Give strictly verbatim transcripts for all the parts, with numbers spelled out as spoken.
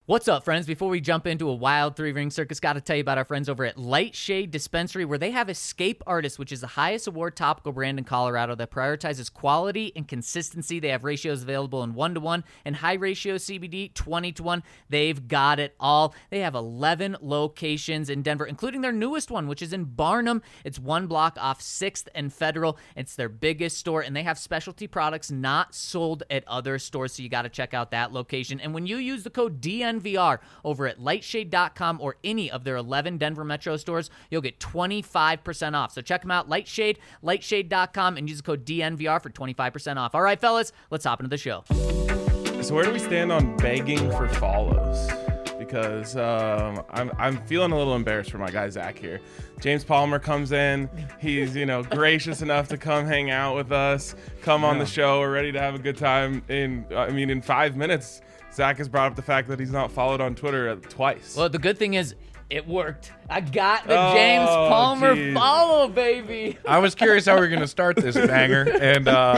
What's up, friends? Before we jump into a wild three-ring circus, got to tell you about our friends over at Light Shade Dispensary, where they have Escape Artist, which is the highest award topical brand in Colorado that prioritizes quality and consistency. They have ratios available in one to one and high ratio C B D, twenty to one. They've got it all. They have eleven locations in Denver, including their newest one, which is in Barnum. It's one block off sixth and Federal. It's their biggest store, and they have specialty products not sold at other stores, so you got to check out that location. And when you use the code D N V R over at lightshade dot com or any of their eleven Denver Metro stores, you'll get twenty-five percent off. So check them out, Lightshade, lightshade dot com, and use the code D N V R for twenty-five percent off. All right, fellas, let's hop into the show. So where do we stand on begging for follows? Because um, I'm I'm feeling a little embarrassed for my guy Zach here. James Palmer comes in. He's, you know, gracious enough to come hang out with us, come on the show. We're ready to have a good time. In I mean, in five minutes, Zach has brought up the fact that he's not followed on Twitter twice. Well, the good thing is it worked. I got the Oh, James Palmer geez. follow, baby. I was curious how we were going to start this banger, and uh,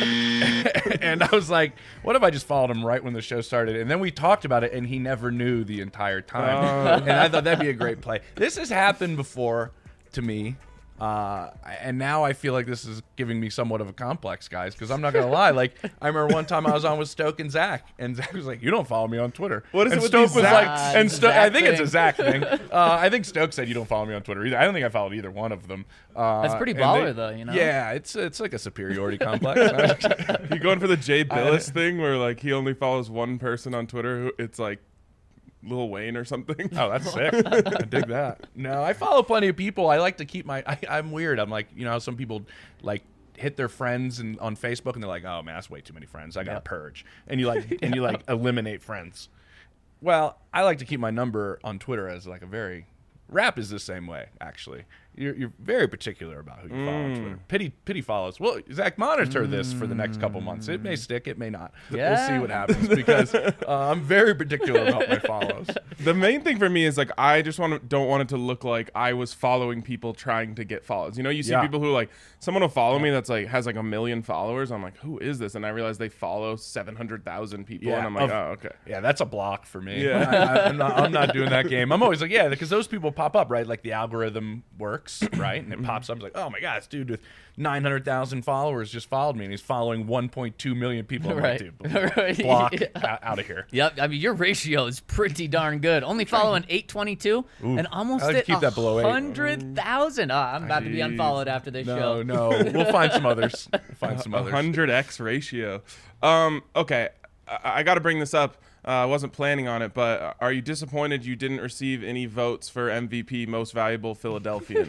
and I was like, what if I just followed him right when the show started? And then we talked about it, and he never knew the entire time. Oh. And I thought that'd be a great play. This has happened before to me. Uh, and now I feel like this is giving me somewhat of a complex, guys, because I'm not going to lie. Like, I remember one time I was on with Stoke and Zach, and Zach was like, you don't follow me on Twitter. What is and it with Stoke these was Zach- like, and Zach Sto- I think it's thing? a Zach thing. Uh, I think Stoke said you don't follow me on Twitter either. I don't think I followed either one of them. Uh, That's pretty and baller, they- though, you know? Yeah, it's it's like a superiority complex. You going for the Jay Billis thing where like he only follows one person on Twitter who it's like Lil Wayne or something? Oh, that's sick. I dig that. No, I follow plenty of people. I like to keep my. I, I'm weird. I'm like, you know, how some people like hit their friends and on Facebook and they're like, oh man, that's way too many friends. I got to Yep. purge. And you like and you like eliminate friends. Well, I like to keep my number on Twitter as like a very. Rap is the same way, actually. You're, you're very particular about who you follow on Twitter. Pity, pity follows. Well, Zach, monitor this for the next couple months. It may stick, it may not. Yeah. We'll see what happens because uh, I'm very particular about my follows. The main thing for me is like I just want to don't want it to look like I was following people trying to get follows. You know, you see Yeah. people who like someone will follow me that's like has like a million followers. I'm like, who is this? And I realize they follow seven hundred thousand people, Yeah, and I'm like, of- oh, okay. Yeah, that's a block for me. Yeah. I, I, I'm, not, I'm not doing that game. I'm always like, yeah, because those people pop up, right? Like the algorithm works, right? And it pops up. It's like, oh my God, this dude with nine hundred thousand followers just followed me, and he's following one point two million people. I'm Right. like, dude, Right. block Yeah. out, out of here. Yep, I mean, your ratio is pretty darn good. Only following eight twenty-two and almost I like to hit keep that below eight. one hundred thousand. Oh, I'm about to be Jeez. unfollowed after this No, show. no, we'll find some others. We'll find some A others. hundred x ratio. Um, okay, I, I got to bring this up. Uh, I wasn't planning on it, but are you disappointed you didn't receive any votes for M V P, Most Valuable Philadelphian?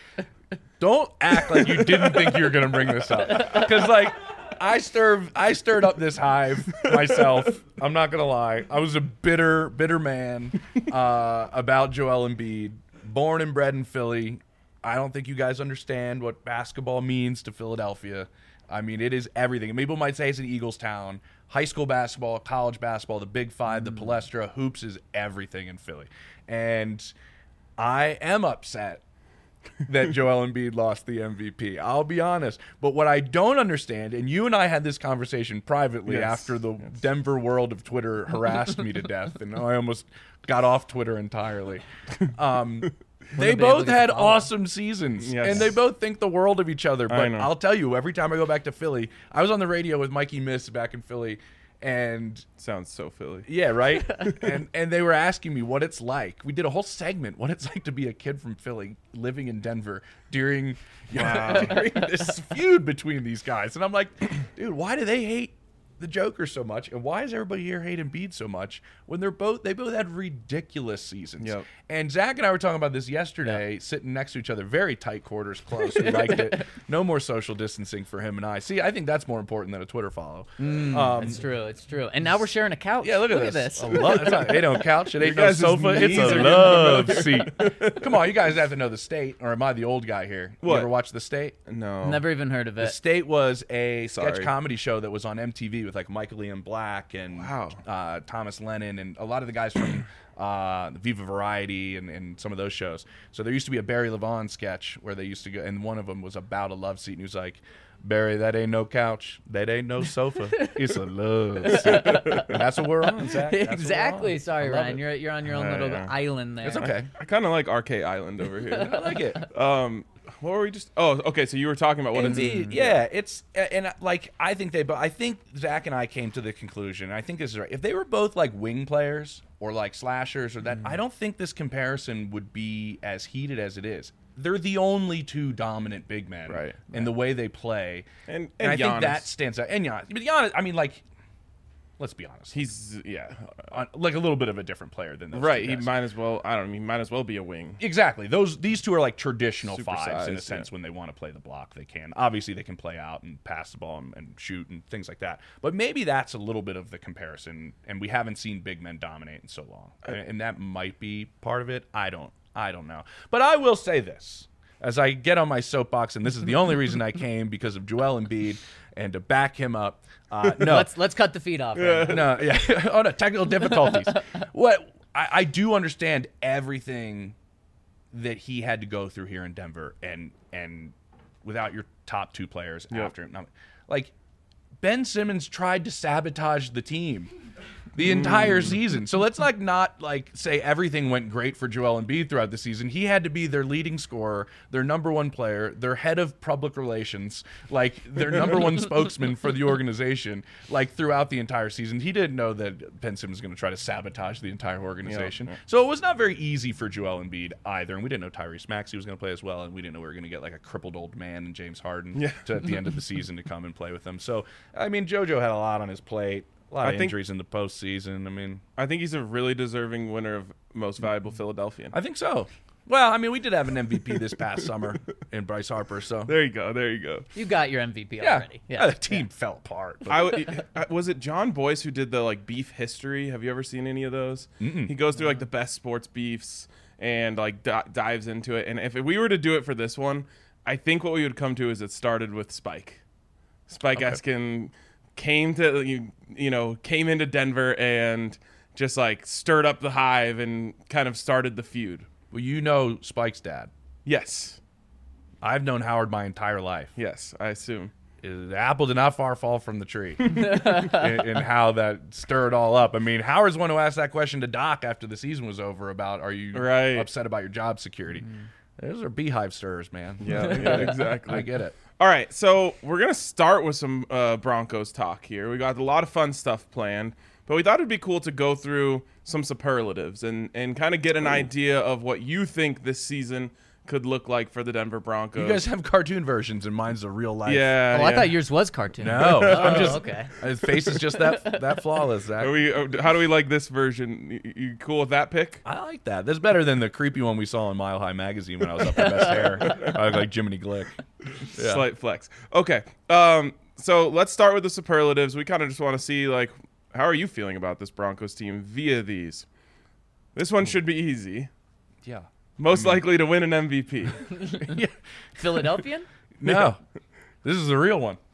Don't act like you didn't think you were going to bring this up. Because, like, I stirred, I stirred up this hive myself. I'm not going to lie. I was a bitter, bitter man uh, about Joel Embiid. Born and bred in Philly. I don't think you guys understand what basketball means to Philadelphia. I mean, it is everything. And people might say it's an Eagles town. High school basketball, college basketball, the Big Five, the Palestra, hoops is everything in Philly. And I am upset that Joel Embiid lost the M V P. I'll be honest. But what I don't understand, and you and I had this conversation privately Yes, after the yes. Denver world of Twitter harassed me to death, and I almost got off Twitter entirely. Um, they be able both to get had the follow. awesome seasons, Yes. and they both think the world of each other. But know. I'll tell you, every time I go back to Philly, I was on the radio with Mikey Miss back in Philly, and Sounds so Philly. yeah, right. and and they were asking me what it's like. We did a whole segment, what it's like to be a kid from Philly living in Denver during, you know, during this feud between these guys. And I'm like, dude, why do they hate the Joker so much, and why does everybody here hate Embiid so much when they're both they both had ridiculous seasons? Yep. And Zach and I were talking about this yesterday, sitting next to each other, very tight quarters, close. We liked it. No more social distancing for him and I. See, I think that's more important than a Twitter follow. um, It's true, it's true. And now we're sharing a couch. yeah, look at this. this. A lo- it's not, it ain't couch. It ain't no guys' sofa. It's knees are a getting love seat. Come on, you guys have to know The State, or am I the old guy here? You What? ever watch The State? No. Never even heard of The it. State was a sketch Sorry. comedy show that was on M T V with like Michael Ian Black and Wow. uh, Thomas Lennon and a lot of the guys from uh, the Viva Variety and, and some of those shows. So there used to be a Barry Levon sketch where they used to go, and one of them was about a love seat, and he was like, Barry, that ain't no couch. That ain't no sofa. It's a love seat. And that's what we're on, Zach. That's Exactly. Sorry, I love Ryan. it. You're you're on your own Yeah, little yeah. island there. It's okay. I kind of like R K Island over I here. like it. um, what were we just? Oh, okay. So you were talking about what it's. Indeed, yeah, it's and uh, like I think they, but I think Zach and I came to the conclusion. I think this is right. If they were both like wing players or like slashers or that, I don't think this comparison would be as heated as it is. They're the only two dominant big men, Right. in the way they play, And- and, and I think Giannis. that stands out. And Giannis, but Giannis, I mean, like, let's be honest, He's yeah, on, like a little bit of a different player than those right. two He guys. might as well. I don't know. He might as well be a wing. Exactly. Those these two are like traditional Super fives in a size, sense. yeah. When they want to play the block, they can. Obviously, they can play out and pass the ball and, and shoot and things like that. But maybe that's a little bit of the comparison, and we haven't seen big men dominate in so long, and, and that might be part of it. I don't. I don't know. But I will say this. As I get on my soapbox, and this is the only reason I came because of Joel Embiid, and to back him up. Uh, no, Let's let's cut the feed off. Ryan. no, yeah. Oh no, technical difficulties. What I, I do understand everything that he had to go through here in Denver, and and without your top two players Yep. after him, like Ben Simmons tried to sabotage the team the entire season. So let's like not like say everything went great for Joel Embiid throughout the season. He had to be their leading scorer, their number one player, their head of public relations, like their number one spokesman for the organization, like throughout the entire season. He didn't know that Ben Simmons was going to try to sabotage the entire organization. Yeah, yeah. So it was not very easy for Joel Embiid either. And we didn't know Tyrese Maxey was going to play as well, and we didn't know we were going to get like a crippled old man and James Harden Yeah. to at the end of the season to come and play with them. So I mean, JoJo had a lot on his plate. A lot I of think- injuries in the postseason. I mean, I think he's a really deserving winner of most valuable Philadelphian. I think so. Well, I mean, we did have an M V P this past summer in Bryce Harper. So There you go. There you go. You got your M V P yeah, already. yeah, the team fell apart. But I w- uh, was it John Boyce who did the like beef history? Have you ever seen any of those? Mm-mm. He goes through like the best sports beefs and like di- dives into it. And if we were to do it for this one, I think what we would come to is it started with Spike. Spike Okay. Eskin came to you, you know came into Denver and just like stirred up the hive and kind of started the feud. well, you know Spike's dad. Yes, I've known Howard my entire life. yes, I assume. The apple did not far fall from the tree in, in how that stirred all up. I mean, Howard's the one who asked that question to Doc after the season was over about, are you Right. upset about your job security? Those are beehive stirrers, man. Yeah, yeah, exactly. I get it. All right, so we're going to start with some uh, Broncos talk here. We got a lot of fun stuff planned, but we thought it'd be cool to go through some superlatives and, and kind of get an idea of what you think this season could look like for the Denver Broncos. You guys have cartoon versions, and mine's a real life. yeah. Oh, I yeah. thought yours was cartoon. No, Oh, I'm just. okay. His face is just that that flawless, Zach. Are we, uh, how do we like this version? You, you cool with that pick? I like that. That's better than the creepy one we saw in Mile High Magazine when I was up for best hair. I look like Jiminy Glick. Yeah. Slight flex. Okay, um, so let's start with the superlatives. We kind of just want to see, like, how are you feeling about this Broncos team via these? This one should be easy. Yeah. Most likely to win an M V P. Philadelphian? No, this is the real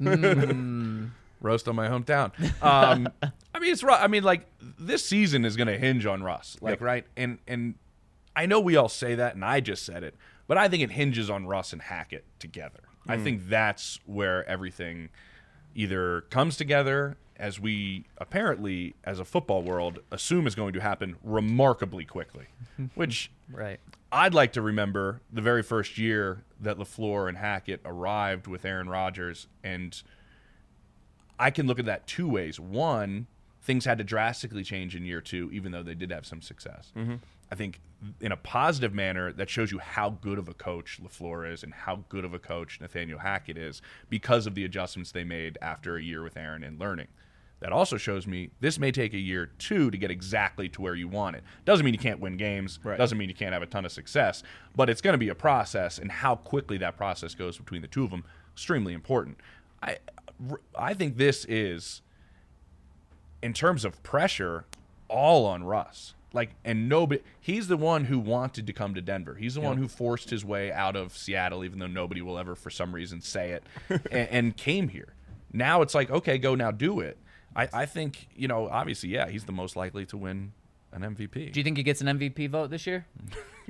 one. Roast on my hometown. Um, I mean, it's Ru- I mean, like this season is going to hinge on Russ, like Yep. right, and and I know we all say that, and I just said it, but I think it hinges on Russ and Hackett together. I think that's where everything either comes together, as we apparently, as a football world, assume is going to happen remarkably quickly, which. Right. I'd like to remember the very first year that LaFleur and Hackett arrived with Aaron Rodgers, and I can look at that two ways. One, things had to drastically change in year two, even though they did have some success. Mm-hmm. I think in a positive manner, that shows you how good of a coach LaFleur is and how good of a coach Nathaniel Hackett is because of the adjustments they made after a year with Aaron and learning. That also shows me this may take a year or two to get exactly to where you want it. Doesn't mean you can't win games. Right. Doesn't mean you can't have a ton of success. But it's going to be a process, and how quickly that process goes between the two of them, extremely important. I, I think this is, in terms of pressure, all on Russ. Like, and nobody, he's the one who wanted to come to Denver. He's the one who forced his way out of Seattle, even though nobody will ever, for some reason, say it, and, and came here. Now it's like, okay, go now, do it. I, I think, you know, obviously, yeah, he's the most likely to win an M V P. Do you think he gets an M V P vote this year?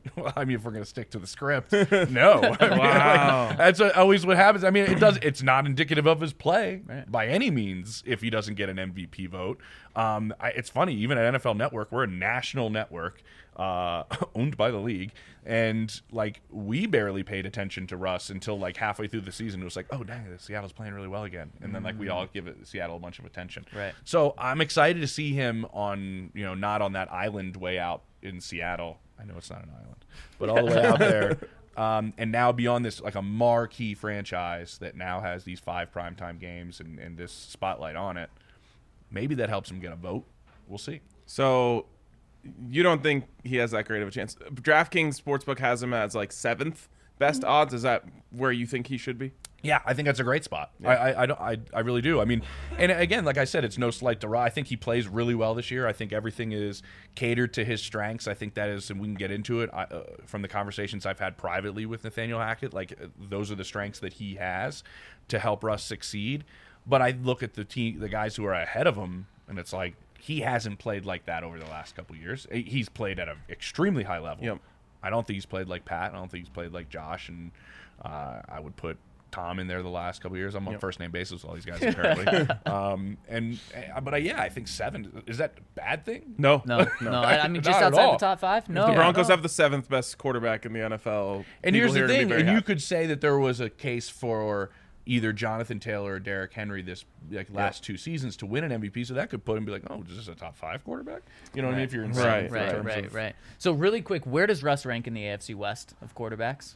Well, I mean, if we're gonna stick to the script, no. I mean, Wow. like, that's what, always what happens. I mean, it does. It's not indicative of his play Right. by any means if he doesn't get an M V P vote. Um, I, it's funny, even at N F L Network, we're a national network uh, owned by the league, and like we barely paid attention to Russ until like halfway through the season. It was like, oh dang, Seattle's playing really well again, and then like we all give it, Seattle a bunch of attention. Right. So I'm excited to see him on, you know, not on that island way out in Seattle. I know it's not an island, but all the way out there. Um, and now beyond this, like a marquee franchise that now has these five primetime games and, and this spotlight on it. Maybe that helps him get a vote. We'll see. So you don't think he has that great of a chance? DraftKings Sportsbook has him as like seventh best odds. Is that where you think he should be? Yeah, I think that's a great spot. I, I, I, don't, I, I really do. I mean, and again, like I said, it's no slight to Ra. I think he plays really well this year. I think everything is catered to his strengths. I think that is, and we can get into it I, uh, from the conversations I've had privately with Nathaniel Hackett. Like uh, those are the strengths that he has to help Russ succeed. But I look at the team, the guys who are ahead of him, and it's like he hasn't played like that over the last couple of years. He's played at an extremely high level. Yep. I don't think he's played like Pat. I don't think he's played like Josh, and uh, I would put Tom in there the last couple of years. I'm on Yep. first name basis with all these guys apparently. um, and uh, but uh, yeah, I think seven is that a bad thing? No. No, no. I, I mean, just Not at outside all. the top five. No, The Broncos no. have the seventh best quarterback in the N F L. And People here's the here are gonna be thing, very and you happy. could say that there was a case for either Jonathan Taylor or Derrick Henry this like last two seasons to win an M V P, so that could put him be like, oh, is this a top five quarterback? You know what I mean? If you're in Right, in Right, terms right, of- right. So really quick, where does Russ rank in the A F C West of quarterbacks?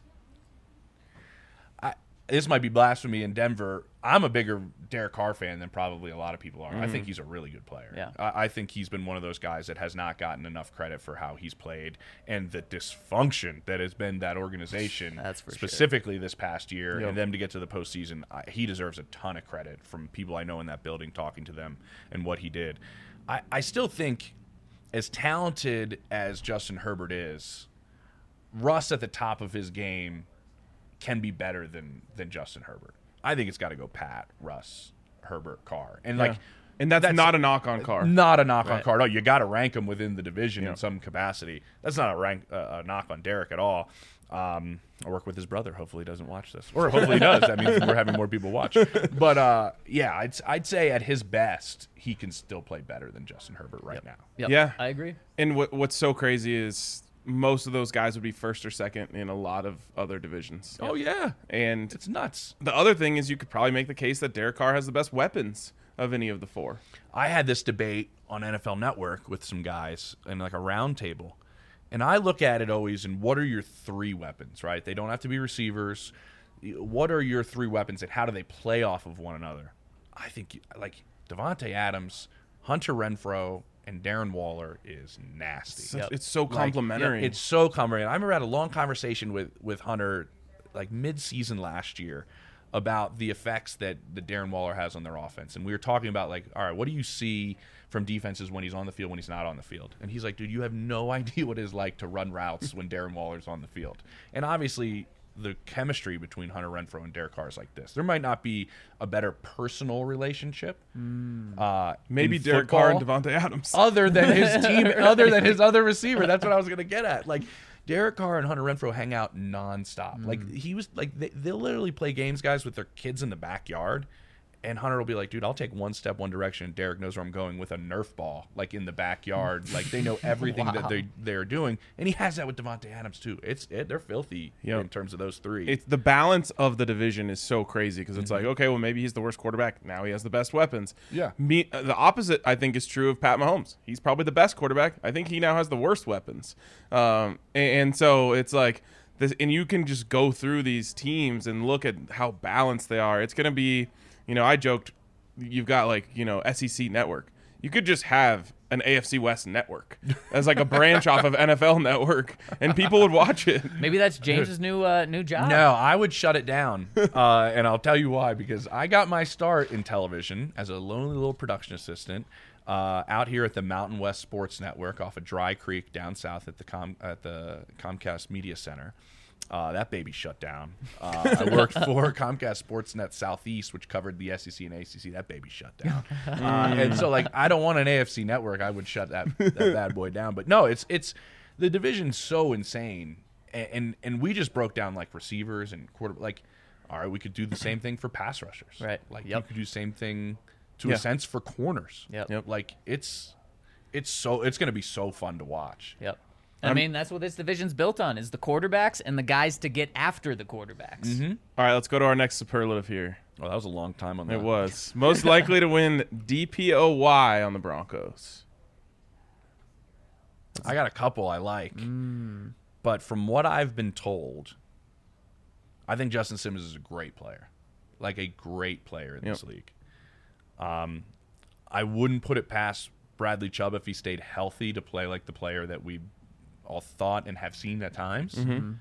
I, this might be blasphemy in Denver. I'm a bigger Derek Carr fan than probably a lot of people are. I think he's a really good player. Yeah. I, I think he's been one of those guys that has not gotten enough credit for how he's played and the dysfunction that has been that organization, That's for sure. specifically this past year, Yep. and them to get to the postseason. I, he deserves a ton of credit from people I know in that building, talking to them and what he did. I, I still think, as talented as Justin Herbert is, Russ at the top of his game can be better than than Justin Herbert. I think it's got to go Pat, Russ, Herbert, Carr, and like, Yeah. And that's, that's- not a knock on Carr. not a knock on Right. Carr. No, you got to rank him within the division Yeah. in some capacity. That's not a rank uh, a knock on Derek at all. Um, I work with his brother. Hopefully, he doesn't watch this, or hopefully he does. That means we're having more people watch. But uh, yeah, I'd I'd say at his best, he can still play better than Justin Herbert right now. Yep, Yeah. I agree. And what what's so crazy is most of those guys would be first or second in a lot of other divisions. Oh yeah, And it's nuts. the other thing is you could probably make the case that Derek Carr has the best weapons of any of the four. I had this debate on N F L Network with some guys in like a round table. And I look at it always in what are your three weapons, right? They don't have to be receivers. What are your three weapons and how do they play off of one another? I think like Devontae Adams, Hunter Renfrow, and Darren Waller is nasty. Such- Yep. It's so Like, complimentary. It's so complimentary. I remember I had a long conversation with with Hunter, like mid-season last year, about the effects that the Darren Waller has on their offense, and we were talking about like, all right, what do you see from defenses when he's on the field, when he's not on the field? And he's like, dude, you have no idea what it's like to run routes when Darren Waller's on the field. And obviously, the chemistry between Hunter Renfrow and Derek Carr is like this. There might not be a better personal relationship. Uh, Maybe in Derek Carr and football Devontae Adams. other than his team, other than his other receiver. That's what I was gonna get at. Like Derek Carr and Hunter Renfrow hang out nonstop. Like he was like they, they'll literally play games, guys, with their kids in the backyard. And Hunter will be like, dude, I'll take one step one direction. And Derek knows where I'm going with a Nerf ball, like in the backyard. Like they know everything that they they're doing, and he has that with Devontae Adams too. It's it, they're filthy Yep. in terms of those three. It's the balance of the division is so crazy because it's Mm-hmm. like, okay, well, maybe he's the worst quarterback. Now he has the best weapons. Yeah. Me, uh, the opposite, I think, is true of Pat Mahomes. He's probably the best quarterback. I think he now has the worst weapons. Um, and, and so it's like this, and you can just go through these teams and look at how balanced they are. It's going to be, you know, I joked, you've got like, you know, S E C network. You could just have an A F C West network as like a branch off of N F L network, and people would watch it. Maybe that's James's new uh, new job. No, I would shut it down, uh, and I'll tell you why. Because I got my start in television as a lonely little production assistant uh, out here at the Mountain West Sports Network off of Dry Creek down south at the Com- at the Comcast Media Center. Uh, that baby shut down. Uh, I worked for Comcast Sportsnet Southeast, which covered the S E C and A C C. That baby shut down. uh, and so, like, I don't want an A F C network. I would shut that, that bad boy down. But no, it's it's the division's so insane, and, and and we just broke down like receivers and quarter. Like, all right, we could do the same thing for pass rushers. Right. Like Yep. you could do the same thing to Yeah. a sense for corners. Yep. Yep. Like it's it's so it's gonna be so fun to watch. Yep. I mean, that's what this division's built on, is the quarterbacks and the guys to get after the quarterbacks. Mm-hmm. All right, let's go to our next superlative here. Oh, that was a long time on that. It was most likely to win D P O Y on the Broncos. I got a couple I like, Mm. but from what I've been told, I think Justin Simmons is a great player, like a great player in this Yep. league. Um, I wouldn't put it past Bradley Chubb if he stayed healthy to play like the player that we all thought and have seen at times. Mm-hmm.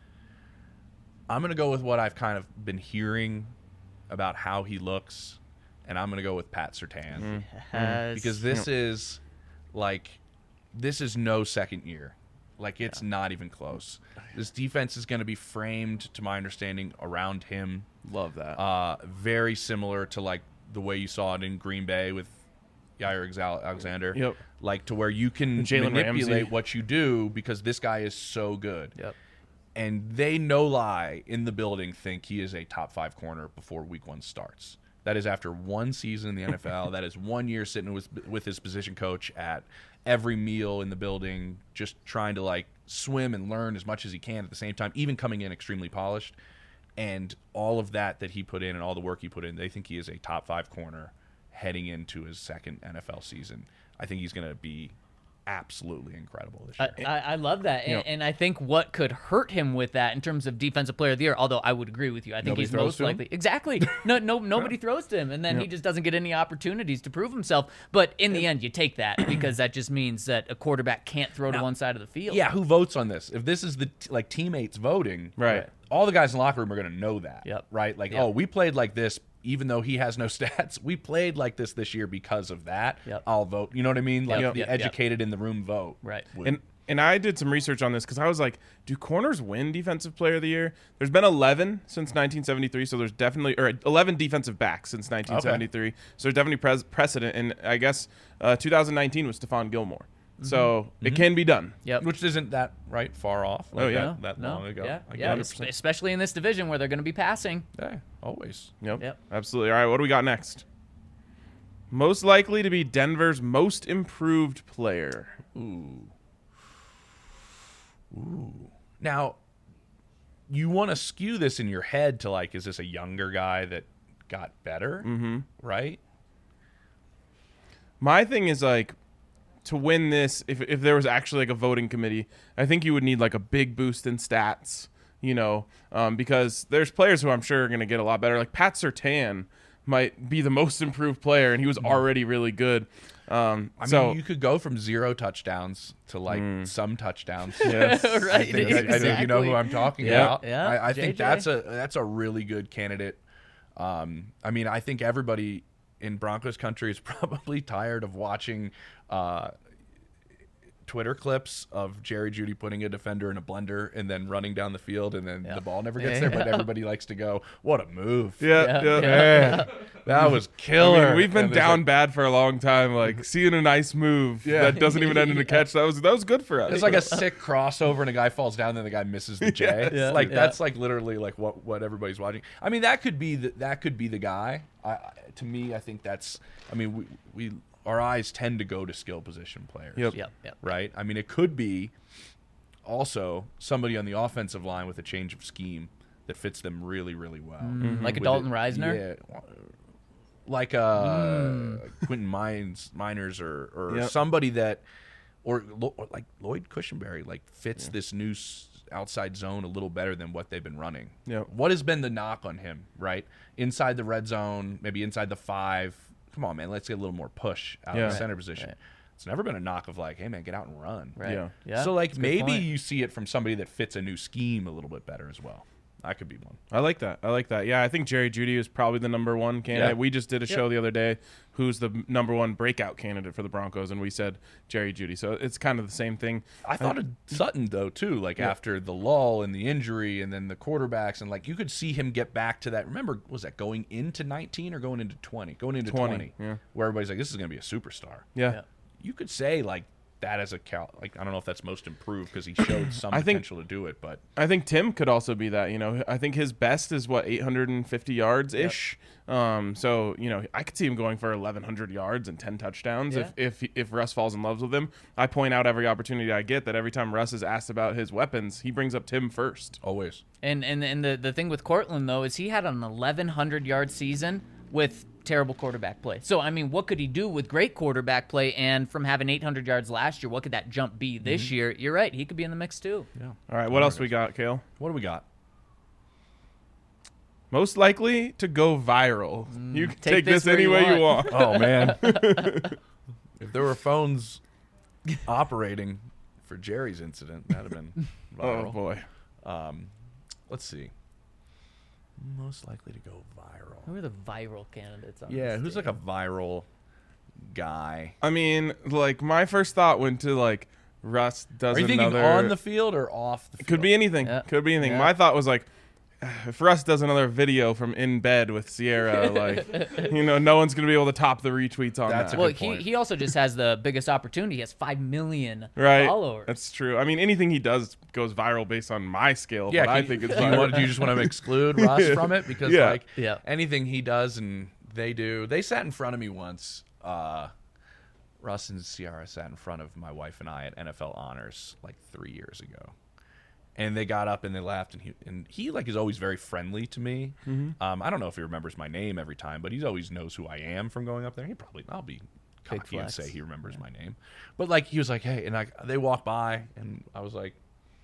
I'm going to go with what I've kind of been hearing about how he looks, and I'm going to go with Pat Surtain. Has- Because this is like this is no second year. Like it's not even close. This defense is going to be framed, to my understanding, around him. Love that. Uh, very similar to like the way you saw it in Green Bay with Jair Exa- Alexander. Yep. Like to where you can Jalen manipulate Ramsey. what you do because this guy is so good. Yep. And they, no lie, in the building think he is a top five corner before week one starts. That is after one season in the N F L. That is one year sitting with with his position coach at every meal in the building, just trying to like swim and learn as much as he can at the same time, even coming in extremely polished. And all of that that he put in and all the work he put in, they think he is a top five corner heading into his second N F L season. I think he's going to be absolutely incredible this I, year. I, I love that, and, You know- and I think what could hurt him with that in terms of defensive player of the year, although I would agree with you, I think Nobody he's throws most to him? likely exactly. No, no, nobody throws to him, and then he just doesn't get any opportunities to prove himself. But in the end, you take that because that just means that a quarterback can't throw to Now- one side of the field. Yeah, who votes on this? If this is the t- like teammates voting, Right. all the guys in the locker room are going to know that, Yep. right? Like, Yep. oh, we played like this, even though he has no stats. We played like this this year because of that. Yep. I'll vote. You know what I mean? Like Yep, the yep, yep. educated in the room vote. Right. would- And and I did some research on this because I was like, do corners win Defensive Player of the Year? There's been eleven since nineteen seventy-three, so there's definitely or eleven defensive backs since nineteen seventy-three. So there's definitely pres- precedent, and I guess uh, two thousand nineteen was Stephon Gilmore. So it can be done. Yep. which isn't that right far off. Like Oh, yeah. that, that no, long ago. Yeah, I get yeah. it. es- especially in this division where they're going to be passing. Yeah, always. Yep. Yep. Absolutely. All right, what do we got next? Most likely to be Denver's most improved player. Ooh. Ooh. Now, you want to skew this in your head to like, is this a younger guy that got better? Mm-hmm. Right? My thing is like to win this, if if there was actually like a voting committee, I think you would need like a big boost in stats, you know, um, because there's players who I'm sure are going to get a lot better. Like Pat Surtain might be the most improved player, and he was already really good. Um, I mean, so you could go from zero touchdowns to like some touchdowns. yes, right. I think, I think you know who I'm talking Yeah, about. yeah, I, I think J J. that's a that's a really good candidate. Um, I mean, I think everybody in Broncos country is probably tired of watching uh, Twitter clips of Jerry Jeudy putting a defender in a blender and then running down the field, and then Yeah. the ball never gets Yeah. there. But everybody likes to go, "What a move!" yeah, Yeah, yeah. yeah. Man, that was I killer. mean, we've been And there's down like- bad for a long time. Like seeing a nice move Yeah. that doesn't even end in a catch. That was that was good for us. It's like a sick crossover, and a guy falls down, and then the guy misses the J. Yeah, like yeah. that's like literally like what, what everybody's watching. I mean, that could be the, that could be the guy. I, I to me, I think that's. I mean, we we our eyes tend to go to skill position players. Yep. Yep, yep. Right. I mean, it could be also somebody on the offensive line with a change of scheme that fits them really, really well. Like a With Dalton it- Reisner? Yeah. Like uh, Quentin Mines, Miners, or or Yep. somebody that, or, Lo- or like Lloyd Cushenberry, like fits this new s- outside zone a little better than what they've been running. Yep. What has been the knock on him? Right, inside the red zone, maybe inside the five. Come on, man, let's get a little more push out Yeah. of the center position. It's never been a knock of like, hey man, get out and run. Right. Yeah. Yeah. So like that's a good maybe point. you see it from somebody that fits a new scheme a little bit better as well. That could be one. I like that. I like that. Yeah, I think Jerry Jeudy is probably the number one candidate. Yeah. We just did a Yep. show the other day who's the number one breakout candidate for the Broncos, and we said Jerry Jeudy. So it's kind of the same thing. I thought of Sutton though too, like Yeah. after the lull and the injury, and then the quarterbacks, and like you could see him get back to that. Remember, was that going into nineteen or going into twenty? Going into twenty, twenty, yeah. where everybody's like, "This is going to be a superstar." Yeah. Yeah. You could say like that as a cal. Like I don't know if that's most improved because he showed some I think- potential to do it, but I think Tim could also be that. You know, I think his best is what eight hundred fifty yards ish. Um, so you know, I could see him going for eleven hundred yards and ten touchdowns Yeah. if if if Russ falls in love with him. I point out every opportunity I get that every time Russ is asked about his weapons, he brings up Tim first. always. And and and the the thing with Cortland though is he had an eleven hundred yard season with terrible quarterback play. So I mean, what could he do with great quarterback play? And from having eight hundred yards last year, what could that jump be this Mm-hmm. year? You're right, he could be in the mix too. Yeah. All right, what else we got, Kale? What do we got? Most likely to go viral. You can take, take this, this where any you way you want. want. Oh man, if there were phones operating for Jerry's incident, that'd have been Oh viral. boy. Um, let's see. Most likely to go viral. Who are the viral candidates? On Yeah, this who's team? like a viral guy? I mean, like my first thought went to like Russ does Are you another. thinking on the field or off the field? Could be anything. Yeah. Could be anything. Yeah. My thought was like, if Russ does another video from in bed with Sierra, like, you know, no one's gonna be able to top the retweets on That's a that. Well, good he, point. he also just has the biggest opportunity. He has five million Right. followers. That's true. I mean, anything he does goes viral based on my scale. Yeah, but I can- think it's do you, viral. want, do you just want to exclude Russ from it because Yeah. like Yeah. anything he does and they do, they sat in front of me once. Uh, Russ and Ciara sat in front of my wife and I at N F L Honors like three years ago, and they got up and they laughed, and he and he like is always very friendly to me. Mm-hmm. Um, I don't know if he remembers my name every time, but he always knows who I am from going up there. He probably I'll be Big cocky and flex. say he remembers my name, but like he was like, hey, and I they walked by and I was like.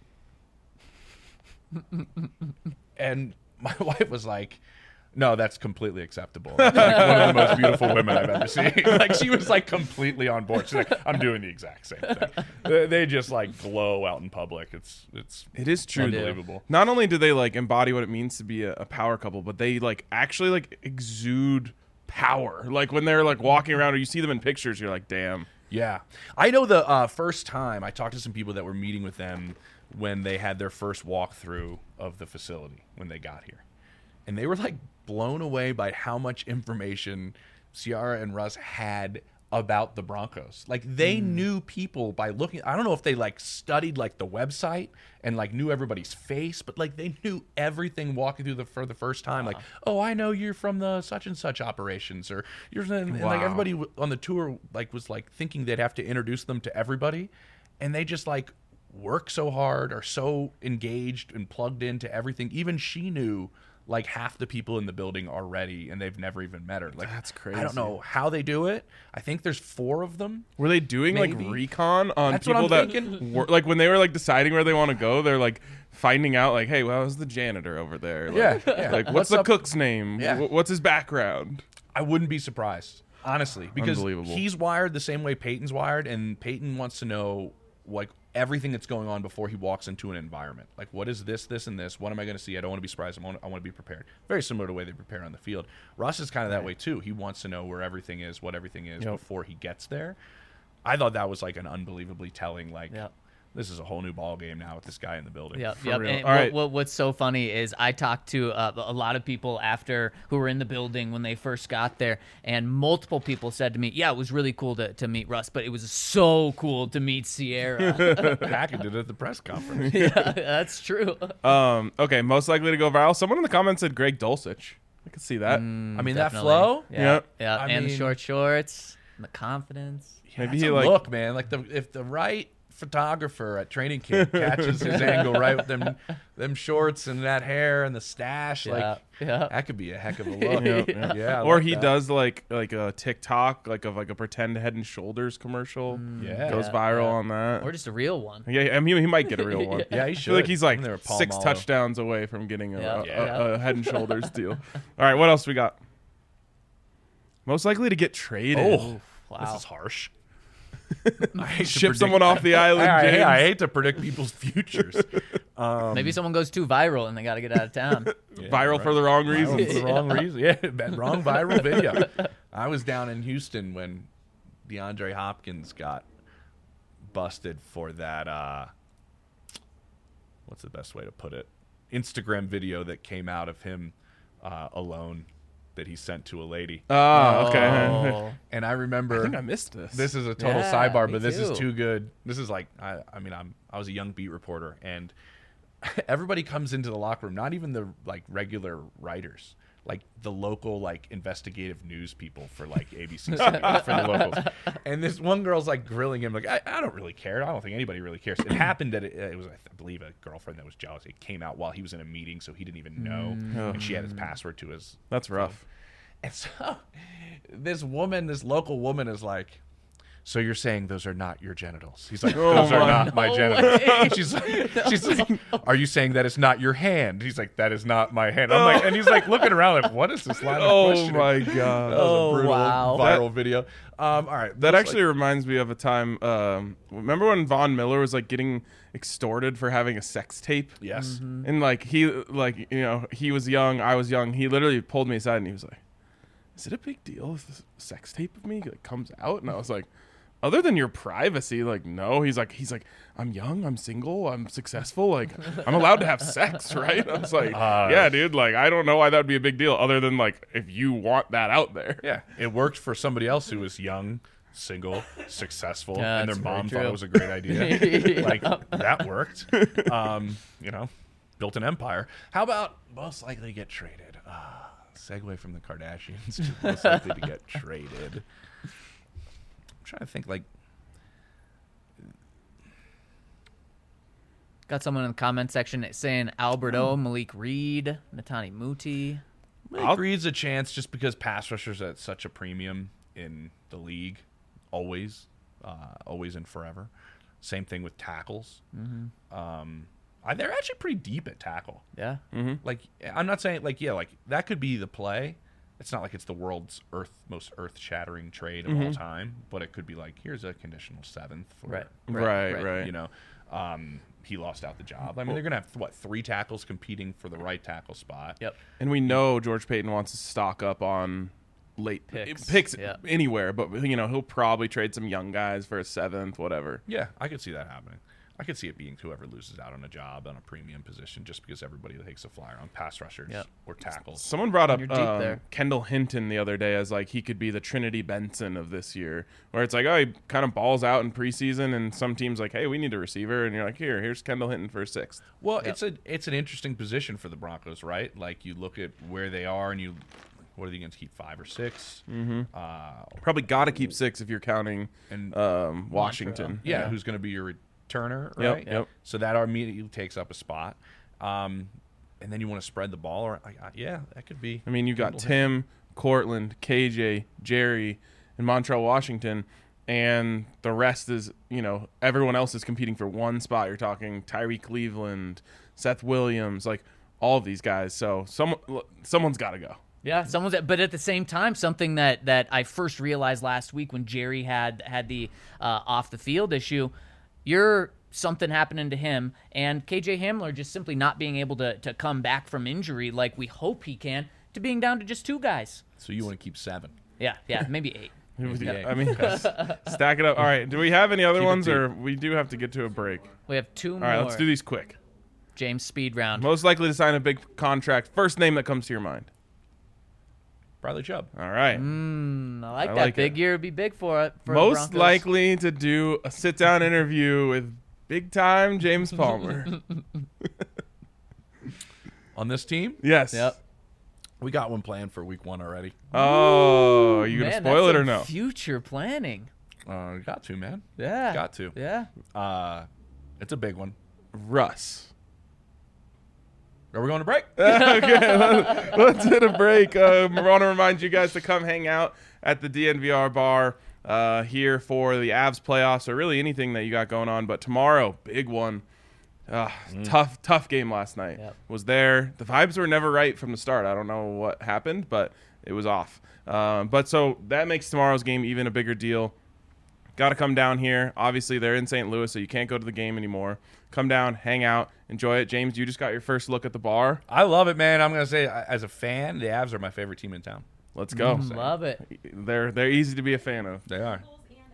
And my wife was like, no, that's completely acceptable. That's like one of the most beautiful women I've ever seen. Like she was like completely on board. She's like, I'm doing the exact same thing. They, they just like glow out in public. It's it's It is true. though. unbelievable. Not only do they like embody what it means to be a, a power couple, but they like actually like exude power. Like when they're like walking around or you see them in pictures, you're like, damn. Yeah. I know the uh, first time I talked to some people that were meeting with them when they had their first walkthrough of the facility when they got here. And they were like blown away by how much information Ciara and Russ had about the Broncos. Like they knew people by looking. I don't know if they like studied like the website and like knew everybody's face, but like they knew everything walking through the for the first time. Like, oh, I know you're from the such and such operations, or you're and, and, like Wow. everybody w- on the tour like was like thinking they'd have to introduce them to everybody, and they just like work so hard, are so engaged and plugged into everything. Even she knew like half the people in the building already, and they've never even met her. Like That's I don't crazy. know how they do it. I think there's four of them. Were they doing Maybe. like recon on That's what people I'm that thinking. were like when they were like deciding where they want to go? They're like finding out like, hey, well, how's the janitor over there? Like, Yeah, yeah. Like, what's, What's the up- cook's name? Yeah. Wh- What's his background? I wouldn't be surprised, honestly, because Unbelievable. he's wired the same way Peyton's wired, and Peyton wants to know like everything that's going on before he walks into an environment. Like, what is this, this, and this? What am I going to see? I don't want to be surprised. I want, I want to be prepared. Very similar to the way they prepare on the field. Russ is kind of that way too. He wants to know where everything is, what everything is Yep. before he gets there. I thought that was like an unbelievably telling. Like, Yep. this is a whole new ball game now with this guy in the building. Yep, For yep. real. And All what, right. what, what's so funny is I talked to uh, a lot of people after who were in the building when they first got there, and multiple people said to me, "Yeah, it was really cool to, to meet Russ, but it was so cool to meet Sierra." Hackett did it at the press conference. Yeah, that's true. Um, okay, most likely to go viral. Someone in the comments said Greg Dulcich. I could see that. I mean, that Definitely. flow. Yeah, Yep. yeah, I and the mean- short shorts, and the confidence. Maybe That's he a like look, man. Like the if the right photographer at training camp catches his angle right with them them shorts and that hair and the stash, Yeah, like yeah. that could be a heck of a look. Yeah, yeah, yeah. I or like he that. does like like a TikTok like of like a pretend Head and Shoulders commercial. Yeah. Goes Yeah, viral yeah. on that. Or just a real one. yeah, I mean he might get a real one. Yeah, he I should. feel like he's like When they were six Palmolive. touchdowns away from getting a, Yeah. a, Yeah. a, a Head and Shoulders deal. All right, what else we got? Most likely to get traded. Oh, Wow. this is harsh. I hate to Ship predict- someone off the island, I, I- James. I hate to predict people's futures. Um, Maybe someone goes too viral and they got to get out of town. yeah, Viral right. for the wrong Viral reasons. for the wrong reason. Yeah, that wrong viral video. I was down in Houston when DeAndre Hopkins got busted for that. Uh, what's the best way to put it? Instagram video that came out of him uh, alone that he sent to a lady. Oh, okay. Oh. And I I remember think I missed this. this is a total Yeah, sidebar, me but this too. is too good. This is like I, I mean I'm I was a young beat reporter, and everybody comes into the locker room, not even the like regular writers, like the local like investigative news people for like A B C for the locals. And this one girl's like grilling him like I, I don't really care. I don't think anybody really cares. It happened that it, it was I believe a girlfriend that was jealous. It came out while he was in a meeting, so he didn't even know, Oh. and she had his password to his. That's rough. And so this woman, this local woman is like, so you're saying those are not your genitals? He's like, Oh those are my- not my No genitals. way. She's like, she's like, are you saying that it's not your hand? He's like, that is not my hand. I'm like, and he's like looking around like, what is this line of Oh questioning? my That god. was Oh, a brutal wow. viral video. Um, all right. That looks actually reminds me of a time. Um, remember when Von Miller was like getting extorted for having a sex tape? like, yes. And like he, like you know, he was young, I was young. He literally pulled me aside and he was like, "Is it a big deal if this sex tape of me like comes out?" And I was like, "Other than your privacy, like no." He's like, he's like, "I'm young, I'm single, I'm successful, like I'm allowed to have sex, right?" I was like, Uh, "Yeah, dude. Like I don't know why that would be a big deal, other than like if you want that out there." Yeah, it worked for somebody else who was young, single, successful, Yeah, and their that's very mom thought true. it was a great idea. Yeah. Like that worked. Um, you know, built an empire. How about most likely to get traded? Uh, segue from the Kardashians to most likely to get traded. I'm trying to think. Like, Got someone in the comment section saying Alberto, Malik Reed, Natani Muti. Malik I'll- Reed's a chance just because pass rushers are at such a premium in the league, always, uh, always and forever. Same thing with tackles. Mm-hmm. Um, I, they're actually pretty deep at tackle. Yeah. Like, I'm not saying like yeah, like that could be the play. It's not like it's the world's earth most earth shattering trade of all time, but it could be like here's a conditional seventh for Right. Right, right. you know. Um, he lost out the job. I mean, they're gonna have what three tackles competing for the right tackle spot. Yep. And we know George Payton wants to stock up on late Picks. picks Yeah. anywhere, but you know he'll probably trade some young guys for a seventh, whatever. Yeah, I could see that happening. I could see it being whoever loses out on a job on a premium position, just because everybody takes a flyer on pass rushers Yep. or tackles. Someone brought up You're deep um, there. Kendall Hinton the other day as like he could be the Trinity Benson of this year, where it's like, oh, he kind of balls out in preseason, and some teams like, hey, we need a receiver, and you're like, here, here's Kendall Hinton for a sixth. Well, it's a it's an interesting position for the Broncos, right? Like you look at where they are, and you, what are they going to keep five or six? Mm-hmm. Uh, Probably got to keep six if you're counting and um, Washington. yeah, Yeah. who's going to be your returner, Yep, right? yep. So that immediately takes up a spot, um, and then you want to spread the ball, or like, uh, yeah, that could be. I mean, you've got Kendall Tim, Cortland, K J, Jerry, and Montreal Washington, and the rest is, you know, everyone else is competing for one spot. You're talking Tyree Cleveland, Seth Williams, like all of these guys. So some, someone's got to go. Yeah, someone's. But at the same time, something that, that I first realized last week when Jerry had had the uh, off the field issue, you're something happening to him, and K J Hamler just simply not being able to to come back from injury like we hope he can, to being down to just two guys. So you want to keep seven? Yeah, yeah, maybe eight. Yeah. I mean, stack it up. All right. Do we have any other Keep it ones, deep. or we do have to get to a break? We have two All more. right, let's do these quick. James speed round. Most likely to sign a big contract. First name that comes to your mind. Bradley Chubb. All right. Mm, I like I that. like big it. year would be big for it. For the Most Broncos. likely to do a sit down interview with big time James Palmer. On this team, Yes. Yep. we got one planned for week one already. Oh, you gonna Man, spoil it that's or some no? Future planning. Uh, got to, man. Yeah. Got to. Yeah. Uh, it's a big one. Russ. Are we going to break? Okay, let's, let's hit a break. Um, I want to remind you guys to come hang out at the D N V R bar uh, here for the Avs playoffs, or really anything that you got going on. But tomorrow, big one. Uh, Tough, tough game last night. Yep. Was there. The vibes were never right from the start. I don't know what happened, but it was off. Um, but so that makes tomorrow's game even a bigger deal. got to come down here. Obviously, they're in Saint Louis, so you can't go to the game anymore. Come down, hang out, enjoy it. James, you just got your first look at the bar. I love it, man. I'm gonna say, as a fan, the Avs are my favorite team in town. Let's go. Mm, love it. They're they're easy to be a fan of. They are.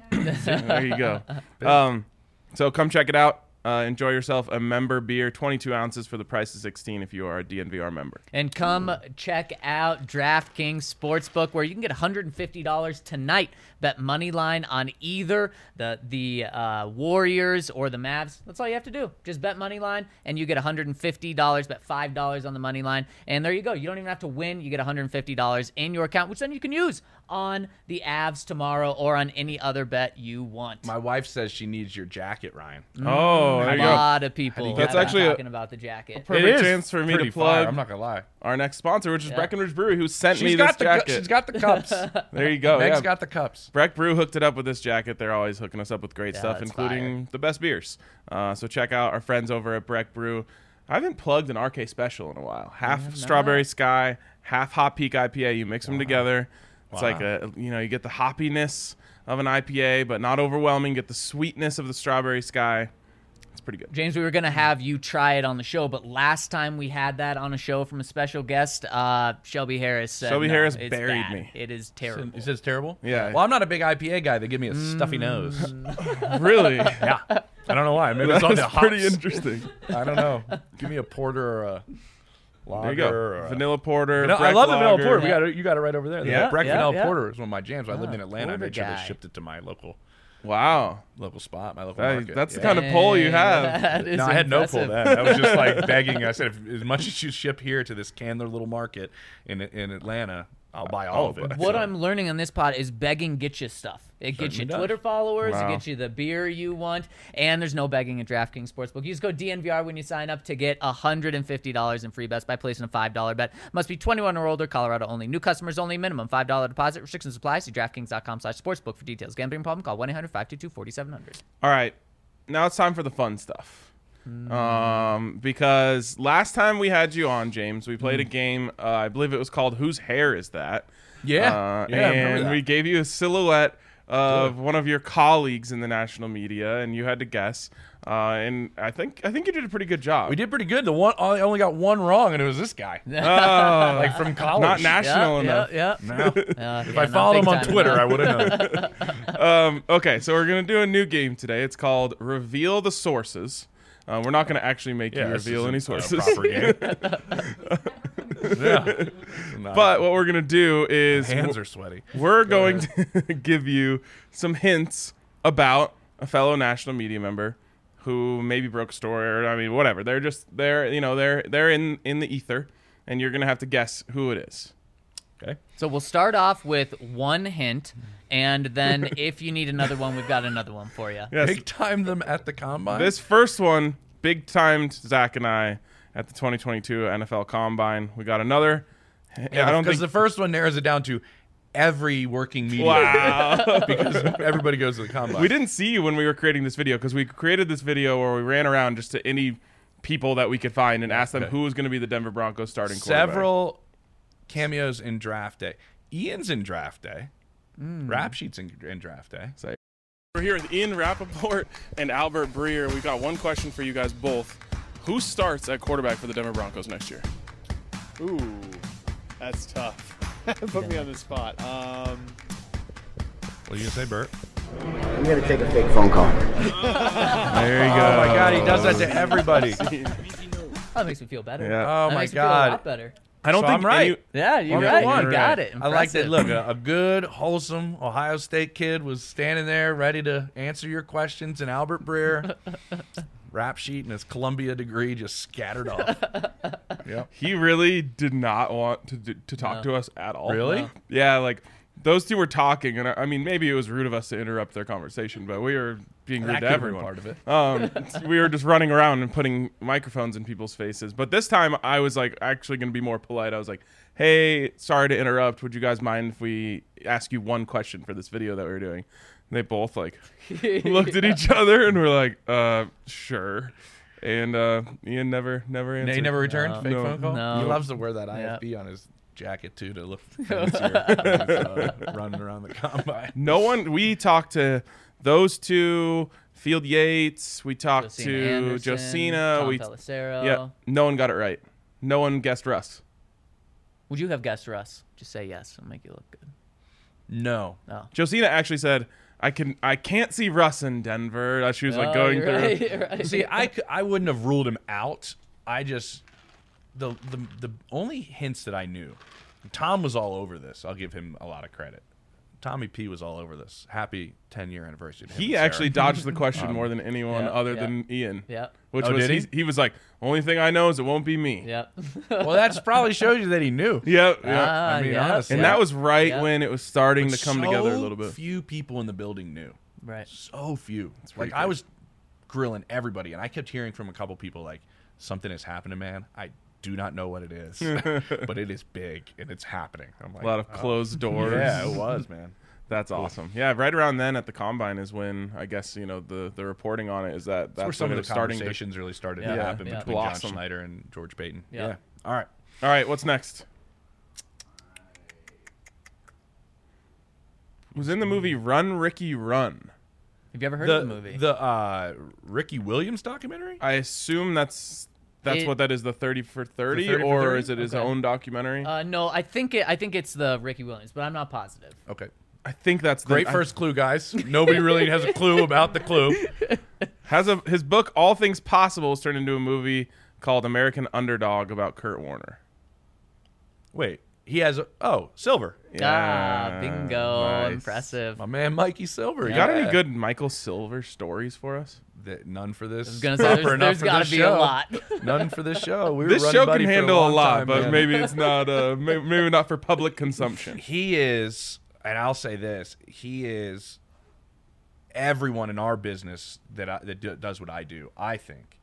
There you go. Um, so come check it out. Uh, enjoy yourself a member beer, twenty-two ounces for the price of sixteen if you are a D N V R member. And come check out DraftKings Sportsbook, where you can get one hundred fifty dollars tonight. Bet money line on either the the uh, Warriors or the Mavs. That's all you have to do. Just bet money line, and you get one hundred fifty dollars. Bet five dollars on the money line, and there you go. You don't even have to win. You get one hundred fifty dollars in your account, which then you can use on the Avs tomorrow or on any other bet you want. My wife says she needs your jacket, Ryan. Oh, there a you go. lot of people you have get That's been actually a- talking about the jacket. Perfect It is chance for me pretty to plug fire, I'm not gonna lie. our next sponsor, which is Yeah. Breckenridge Brewery, who sent She's me got this the jacket. she's got the cups. There you go. Meg's Yeah. got the cups. Breck Brew hooked it up with this jacket. They're always hooking us up with great Yeah, stuff, that's including the best beers. Uh, so check out our friends over at Breck Brew. I haven't plugged an R K special in a while. Half have Strawberry not. Sky, half Hop Peak I P A. You mix them together. It's Wow. like a, you know, you get the hoppiness of an I P A, but not overwhelming. Get the sweetness of the Strawberry Sky. It's pretty good. James, we were going to have you try it on the show, but last time we had that on a show from a special guest, uh, Shelby Harris said, Shelby no, Harris it's buried bad. me. It is terrible. He says terrible. Yeah. Well, I'm not a big I P A guy. They give me a stuffy nose. Really? Yeah. I don't know why. Maybe it's on the That's hops. pretty interesting. I don't know. Give me a porter or a lager. There you go. Or a, Vanilla porter. No, I Breck love the vanilla lager. porter. We got it. You got it right over there. The Yeah, Breck yeah, vanilla yeah. porter is one of my jams. When I lived Oh, in Atlanta. I porter made sure guy. they shipped it to my local Wow. local spot, my local That- market. that's the Yeah. kind of pull you Dang, have. that is No, I had no pull impressive. then. I was just like begging. I said, if, as much as you ship here to this Candler little market in in Atlanta, I'll buy all of it. What So- I'm learning on this pod is begging gets you stuff. It gets you Certainly does. Twitter followers, Wow. it gets you the beer you want, and there's no begging at DraftKings Sportsbook. You just go D N V R when you sign up to get one hundred fifty dollars in free bets by placing a five dollar bet. Must be twenty-one or older, Colorado only. New customers only, minimum five dollar deposit. Restrictions apply. See DraftKings.com slash sportsbook for details. Gambling problem? Call one eight hundred five two two four seven zero zero. All right, now it's time for the fun stuff. Um, because last time we had you on, James, we played a game. Uh, I believe it was called "Whose Hair Is That?" Yeah, uh, yeah, I remember and that. we gave you a silhouette of one of your colleagues in the national media, and you had to guess. Uh, and I think I think you did a pretty good job. We did pretty good. The one I only got one wrong, and it was this guy, Oh, like from college. not national enough. Yeah, No. yeah. If I followed him on Twitter, I would have known. Um, okay, so we're gonna do a new game today. It's called Reveal the Sources. Uh, we're not gonna actually make Yeah, you this reveal any isn't a sources. proper game. Yeah. No. But what we're gonna do is hands are sweaty. we're going to give you some hints about a fellow national media member who maybe broke a story, or I mean, whatever. They're just they're you know they're they're in in the ether, and you're gonna have to guess who it is. Okay. So we'll start off with one hint, and then if you need another one, we've got another one for you. Yes, Big time them at the combine. this first one big timed Zach and I at the twenty twenty-two N F L Combine. We got another. yeah, I don't because think. the first one narrows it down to every working media. Wow. Because everybody goes to the combine. We didn't see you when we were creating this video because we created this video where we ran around just to any people that we could find and asked them Okay. who was going to be the Denver Broncos starting quarterback. Several cameos in draft day. Ian's in draft day. Rap sheets in, in draft day. We're here with Ian Rappaport and Albert Breer. We've got one question for you guys both. Who starts at quarterback for the Denver Broncos next year? Ooh, that's tough. Put me on the spot. Um, What are you gonna say, Bert? I'm gonna take a fake phone call. There you Oh my God, he does that to everybody. That makes me feel better. Yeah. Oh That my makes me feel a God. lot better. I don't So think I'm right. any- Yeah, you're One for right. one. You got it. I like that. Impressive. Look, a, a good, wholesome Ohio State kid was standing there ready to answer your questions, and Albert Breer, rap sheet and his Columbia degree, just scattered off. Yep. he really did not want to do, to talk No. to us at all. Really? No. Yeah, like those two were talking, and I, I mean, maybe it was rude of us to interrupt their conversation, but we were being rude That to could have been everyone. part of it. Um, we were just running around and putting microphones in people's faces. But this time, I was like actually going to be more polite. I was like, "Hey, sorry to interrupt. Would you guys mind if we ask you one question for this video that we were doing?" And they both like looked at each other and were like, "Uh, sure." And uh, Ian never, never answered. He never returned No. fake No. phone call. No. He loves to wear that I Yep. F B on his jacket too to look fancier when he's, uh, running around the combine. No one. We talked to those two, Field Yates. We talked Josina to Anderson, Josina. Tom we Pelissero. yeah, no one got it right. No one guessed Russ. Would you have guessed Russ? Just say yes. It'll make you look good. No. Oh. Josina actually said, "I can, I can't see Russ in Denver." Uh, She was like Oh, going you're through. right, you're right. See, I, c- I wouldn't have ruled him out. I just the the the only hints that I knew. Tom was all over this. I'll give him a lot of credit. Tommy P was all over this. Happy ten year anniversary to him He and actually Sarah. dodged the question more than anyone yeah, other yeah. than Ian. Yeah. Which Oh, was did he? he? he was like, "Only thing I know is it won't be me." Yep. Well, that's probably shows you that he knew. Yep. yep. Ah, I mean, yep, honestly. And yep. that was right Yeah. when it was starting to come So together a little bit. Few people in the building knew. Right. So few. pretty Like I crazy. was grilling everybody, and I kept hearing from a couple people like, "Something has happened, man. I do not know what it is, but it is big and it's happening." I'm like, A lot of oh. closed doors. Yeah, it was, man. That's awesome. Yeah, right around then at the combine is when I guess you know the the reporting on it is that That's that's where some when of it the was starting to. conversations really started Yeah, to happen yeah. between Blossom. John Schneider and George Payton. Yeah. Yeah. All right. All right, what's next? Who's in the movie Run Ricky Run? Have you ever heard The of the movie? the uh, Ricky Williams documentary. I assume that's that's It- what that is, the thirty for thirty, thirty for or thirty? is it his Okay. own documentary? uh, no, I think it. I think it's the Ricky Williams, but I'm not positive. Okay. I think that's the, Great I- first clue, guys. Nobody really has a clue about the clue. Has a his book All Things Possible was turned into a movie called American Underdog about Kurt Warner. Wait, he has a oh Silver. ah, bingo! nice. Impressive. My man Mikey Silver. You got yeah. any good Michael Silver stories for us? Th- none for this. I was gonna say or there's, enough there's for got this to be show. a lot. None for this show. We were This running show buddy can for handle a long lot, time, but man. maybe it's not. Uh, maybe, maybe not for public consumption. He is, and I'll say this: he is everyone in our business that I, that do, does what I do. I think,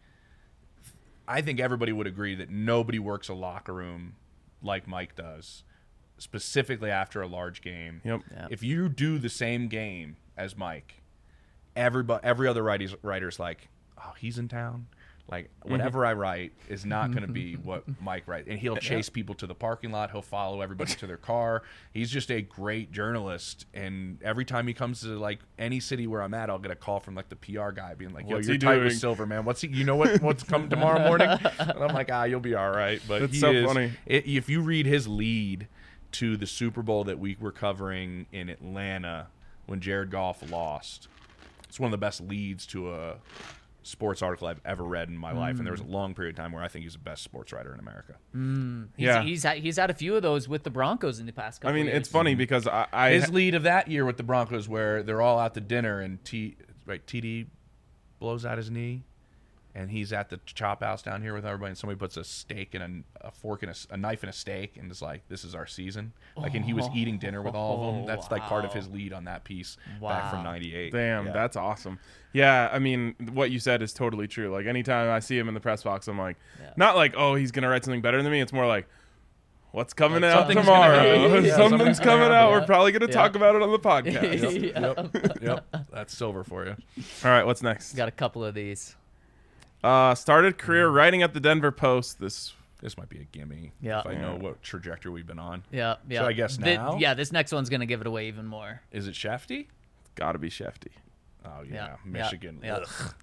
I think everybody would agree that nobody works a locker room like Mike does, specifically after a large game. Yep. Yeah. If you do the same game as Mike, everybody, every other writer's, writer's like, oh, he's in town. Like, whatever I write is not going to be what Mike writes. And he'll chase people to the parking lot. He'll follow everybody to their car. He's just a great journalist. And every time he comes to, like, any city where I'm at, I'll get a call from, like, the P R guy being like, yo, What's you're he tight doing? with Silver, man. What's he, you know what, what's coming tomorrow morning? And I'm like, ah, you'll be all right. But That's he so is, funny. It, if you read his lead to the Super Bowl that we were covering in Atlanta when Jared Goff lost, it's one of the best leads to a sports article I've ever read in my life, and there was a long period of time where I think he's the best sports writer in America. He's, Yeah. he's had, he's had a few of those with the Broncos in the past couple I mean, years. it's funny because I, I His lead of that year with the Broncos, where they're all out to dinner and T right T D blows out his knee, and he's at the chop house down here with everybody, and somebody puts a steak and a, a fork and a, a knife and a steak, and is like, "This is our season." Like, and he was eating dinner with all of them. That's like part of his lead on that piece back from Wow. ninety-eight. Damn, Yeah. that's awesome. Yeah, I mean, what you said is totally true. Like, anytime I see him in the press box, I'm like, Yeah. not like, oh, he's going to write something better than me. It's more like, what's coming out something's tomorrow? gonna happen. Yeah, Something's something's gonna coming happen. out. Yeah. We're probably going to Yeah. talk about it on the podcast. Yeah. Yep, that's Silver for you. All right, what's next? Got a couple of these. Uh, started career writing at the Denver Post. This This might be a gimme. Yeah. If I know what trajectory we've been on. Yeah, yeah. I guess Thi- now? yeah, this next one's gonna give it away even more. Is it Shafty? got to be Shefty. Oh yeah, Yeah, Michigan. yeah,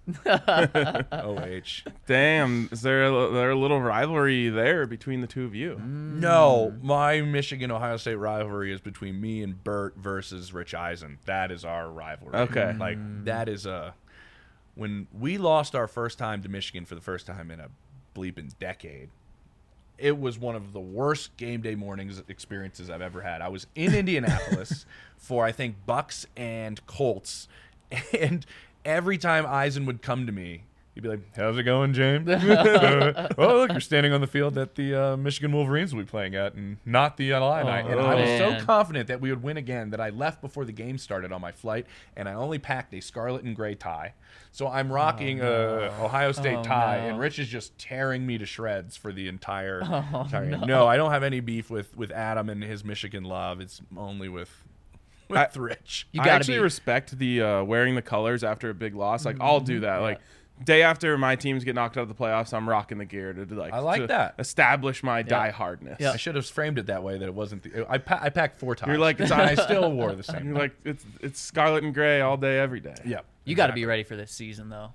Ugh. O H. Damn, is there a, there a little rivalry there between the two of you? No, my Michigan Ohio State rivalry is between me and Bert versus Rich Eisen. That is our rivalry. Okay. Like that is a when we lost our first time to Michigan for the first time in a bleeping decade. It was one of the worst game day mornings experiences I've ever had. I was in Indianapolis for I think Bucks and Colts, and every time Eisen would come to me, he'd be like, "How's it going, James? uh, oh, look, you're standing on the field that the uh, Michigan Wolverines will be playing at, and not the Illini." Oh, and I was man. so confident that we would win again that I left before the game started on my flight, and I only packed a scarlet and gray tie. So I'm rocking a Ohio State Oh, tie, no. and Rich is just tearing me to shreds for the entire. Oh, entire game. no. No, I don't have any beef with with Adam and his Michigan love. It's only with with I- Rich. You I gotta actually be. respect the uh, wearing the colors after a big loss. Like, I'll do that. Like, day after my teams get knocked out of the playoffs, I'm rocking the gear to do, like I like to that. establish my diehardness. Yeah. I should have framed it that way that it wasn't. The, I pa- I packed four times. You're like, and I still wore the same. You're like it's it's scarlet and gray all day every day. yeah. You got to be ready for this season though,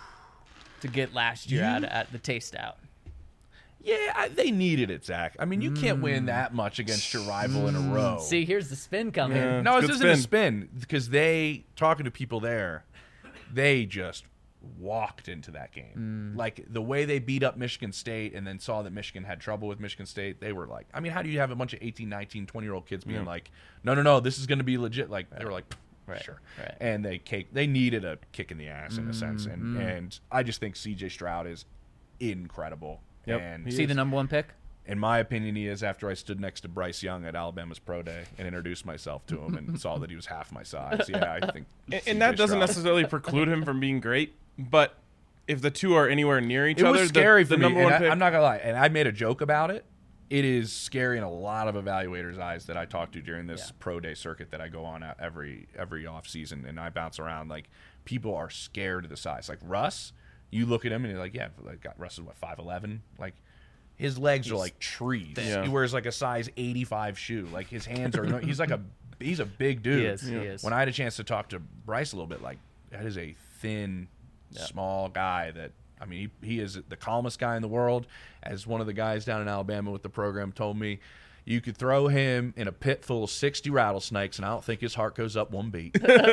to get last year out at the taste out. Yeah, I, they needed it, Zach. I mean, you can't win that much against your rival in a row. See, here's the spin coming. Yeah. no, it's this good isn't a spin because they talking to people there, they just walked into that game. Like the way they beat up Michigan State and then saw that Michigan had trouble with Michigan State, they were like, I mean, how do you have a bunch of eighteen, nineteen, twenty-year-old kids being like, no, no, no, this is going to be legit? Like, they were like, Right, sure. right. And they cake, they needed a kick in the ass in a sense. And, and I just think C J Stroud is incredible. Yep, And he See is. the number one pick? in my opinion, he is after I stood next to Bryce Young at Alabama's Pro Day and introduced myself to him and saw that he was half my size. Yeah, I think. And, C J and that doesn't Stroud. necessarily preclude him from being great, but if the two are anywhere near each It other, was scary the, for the me. number and one I, pick. I'm not gonna lie, and I made a joke about it. It is scary in a lot of evaluators' eyes that I talk to during this Yeah. pro day circuit that I go on at every every off season, and I bounce around. Like people are scared of the size. Like Russ, you look at him and you're like, yeah, like got Russ is what five eleven, like. His legs are like trees. Yeah. He wears like a size eighty-five shoe. Like his hands are. He's like a. He's a big dude. He is, he is. When I had a chance to talk to Bryce a little bit, like that is a thin, small guy. That I mean, he, he is the calmest guy in the world. As one of the guys down in Alabama with the program told me, you could throw him in a pit full of sixty rattlesnakes, and I don't think his heart goes up one beat.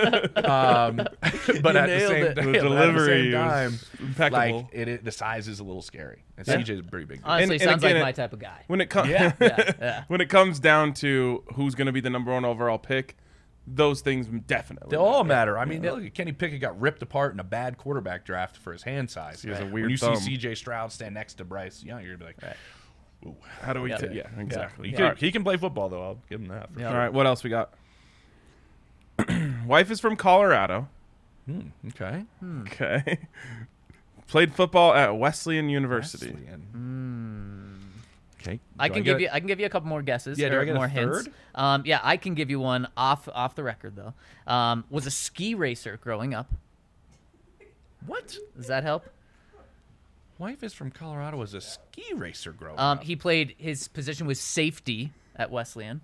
um, but You at the nailed same, it. but The at the delivery same time, was impeccable. like it, it, the size is a little scary. And Yeah. C J's a pretty big dude. Honestly, And- and sounds again, like it- my type of guy. when it comes, Yeah. Yeah, yeah. when it comes down to who's going to be the number one overall pick, those things definitely. They all matter. I mean, look at Kenny Pickett got ripped apart in a bad quarterback draft for his hand size. He has a When weird you thumb. see C J Stroud stand next to Bryce Young, you're gonna be like, ooh. How do we? Yeah. ta- yeah, exactly. He, All can, right. he can play football though. I'll give him that. For Yeah. All right, what else we got? Wife is from Colorado. sure. Hmm, okay. Okay. Played football at Wesleyan University. Wesleyan. Okay. I Do can get give it? you. I can give you a couple more guesses. Yeah, do or I get a more hints. third? Um, yeah, I can give you one off off the record though. Um, was a ski racer growing up. What? Does that help? Wife is from Colorado. Was a ski racer growing Um, up. he played his position was safety at Wesleyan.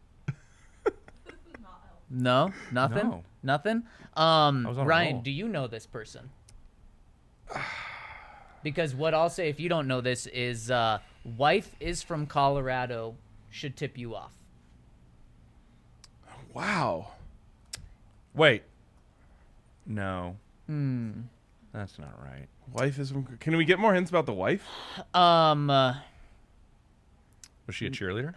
No, nothing, No. nothing. I Um, was on a Ryan, roll. do you know this person? Because what I'll say, if you don't know this, is uh, wife is from Colorado should tip you off. Wow. Wait. No. Hmm. That's not right. Wife is from. Can we get more hints about the wife? Um, uh, Was she a cheerleader?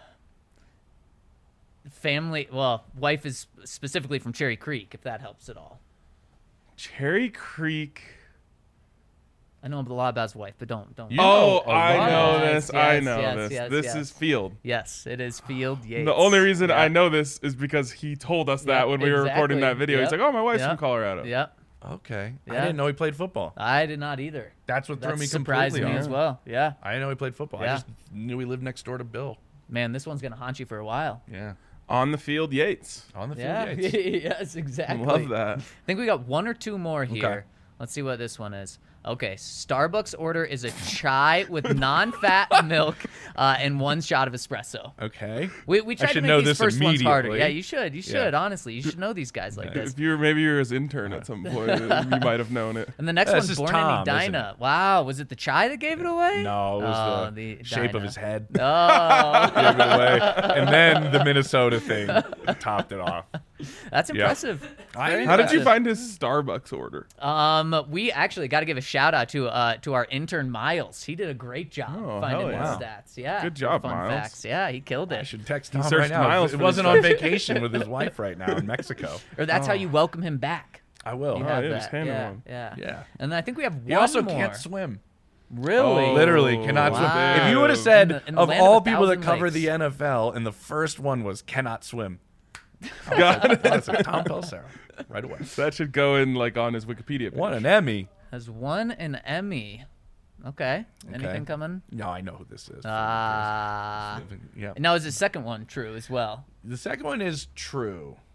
family. Well, wife is specifically from Cherry Creek. If that helps at all. Cherry Creek. I know a lot about his wife, but don't don't. You Oh, know a I lot. know Yes, this. I yes, know yes, this. yes, this yes. is Field. Yes, it is Field Yates. The only reason I Yep. know this is because he told us that Yep, when we were recording that exactly. video. He's Yep. like, "Oh, my wife's Yep. from Colorado." Yep. Okay. I Yeah. didn't know he played football. I did not either. That's what threw That me surprised completely me off. as well. Yeah. I didn't know he played football. Yeah. I just knew he lived next door to Bill. Man, this one's gonna haunt you for a while. Yeah. On the field, Yates. On the field, Yeah. Yates. Yes, exactly. Love that. I think we got one or two more here. Okay. Let's see what this one is. Okay, Starbucks order is a chai with non-fat milk uh, and one shot of espresso. Okay. We, we tried should to make know these this first ones harder. immediately. Yeah, you should. You should. Yeah. Honestly, you should know these guys like this. If you were maybe you were his intern at some point, you might have known it. And the next This one's is Born Tom, in isn't Edina. Wow, was it the chai that gave it away? No, it was Oh, the, the shape of Edina. his head. Oh, Gave it away. And then the Minnesota thing topped it off. that's Yeah. impressive. Very How did you impressive. find his Starbucks order? Um, we actually got to give a shout out to uh to our intern Miles. He did a great job Oh, finding hell those yeah. stats. Yeah, Good job, fun Miles. facts. Yeah, he killed I it. should text He Tom searched right now. Miles It for wasn't this on vacation with his wife right now in Mexico. Or that's how you welcome him back. I will. You Oh, have yeah, just that. hand him Yeah, one. yeah, Yeah. And I think we have He one also more. can't swim. Really? Oh. Literally cannot swim. Wow. If you would have said, In the- in the of land of all a people that thousand cover lakes. the N F L, and the first one was cannot swim. God, That's a Tom Pelissero. Right away. that should go in like on his Wikipedia page. Won an Emmy. Has won an Emmy. Okay. Anything Okay. coming? No, I know who this is. Ah. yeah. Now is the second one true as well? The second one is true.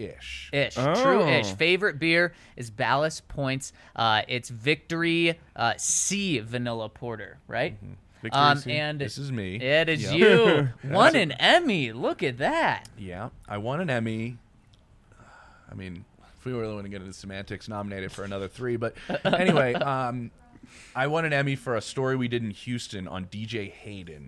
Ish. Ish, Oh. true ish. Favorite beer is Ballast Points. Uh, it's Victory uh, C Vanilla Porter, right? Mm-hmm. Victory Um, C. and This is me. it is Yep. you. Won an Emmy. Look at that. Yeah, I won an Emmy. I mean, if we really want to get into semantics, nominated for another three. But anyway, um, I won an Emmy for a story we did in Houston on D J Hayden.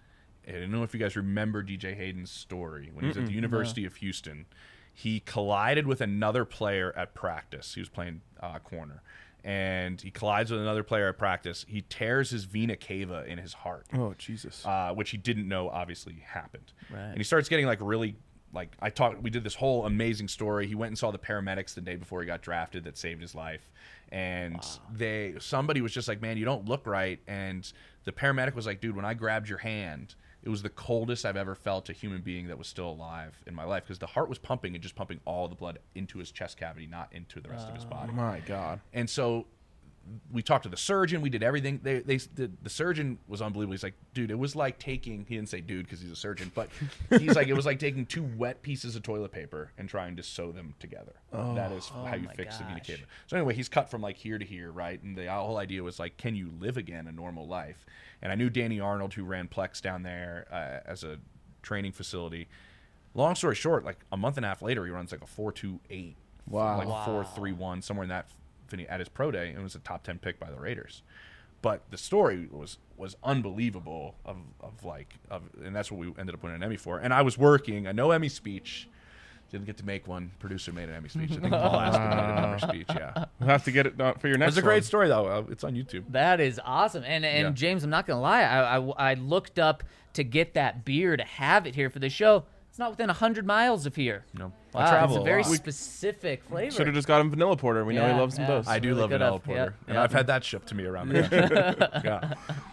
I don't know if you guys remember D J Hayden's story when he was at the University of Houston. He collided with another player at practice. He was playing uh, corner. And he collides with another player at practice. He tears his vena cava in his heart. Oh, Jesus. Uh, which he didn't know obviously happened. Right. And he starts getting like really like I talked we did this whole amazing story. He went and saw the paramedics the day before he got drafted that saved his life. And wow. they somebody was just like, "Man, you don't look right." And the paramedic was like, "Dude, when I grabbed your hand, it was the coldest I've ever felt a human being that was still alive in my life because the heart was pumping and just pumping all the blood into his chest cavity, not into the rest uh, of his body." My God. And so we talked to the surgeon. We did everything. They, they, the, the surgeon was unbelievable. He's like, "Dude, it was like taking." He didn't say "dude" because he's a surgeon, but he's like, "It was like taking two wet pieces of toilet paper and trying to sew them together." Oh, that is oh how you my fix the vena gosh. cava. So anyway, he's cut from like here to here, right? And the whole idea was like, can you live again a normal life? And I knew Danny Arnold, who ran Plex down there uh, as a training facility. Long story short, like a month and a half later, he runs like a four two eight, Wow. like Wow. four three one, somewhere in that at his pro day, and it was a top ten pick by the Raiders. But the story was was unbelievable of, of like of and that's what we ended up winning an Emmy for. And I was working, a no Emmy speech. Didn't get to make one. Producer made an Emmy speech. I think Paul Aspen made another speech, yeah. We'll have to get it done for your next It's a great one. story though. Uh, It's on YouTube. That is awesome. And and Yeah. James, I'm not gonna lie. I, I I looked up to get that beer to have it here for the show. It's not within hundred miles of here. No. Wow, I travel it's a very lot. specific flavor. Should have just got him vanilla porter. We know Yeah, he loves some yeah. those. I do Really love good vanilla up. porter. Yep, And yep. I've had that shipped to me around the country. yeah.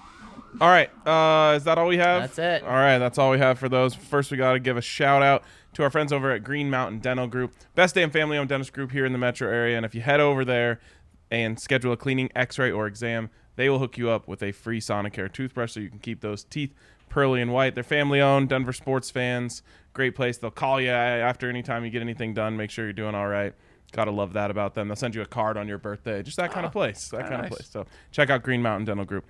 All right. Uh, is that all we have? That's it. All right. That's all we have for those. First, we got to give a shout out to our friends over at Green Mountain Dental Group. Best damn family-owned dentist group here in the metro area. And if you head over there and schedule a cleaning, x-ray, or exam, they will hook you up with a free Sonicare toothbrush so you can keep those teeth pearly and white. They're family-owned, Denver sports fans. Great place. They'll call you after any time you get anything done. Make sure you're doing all right. Gotta love that about them. They'll send you a card on your birthday. Just that kind of place. That kind nice. of place. So check out Green Mountain Dental Group.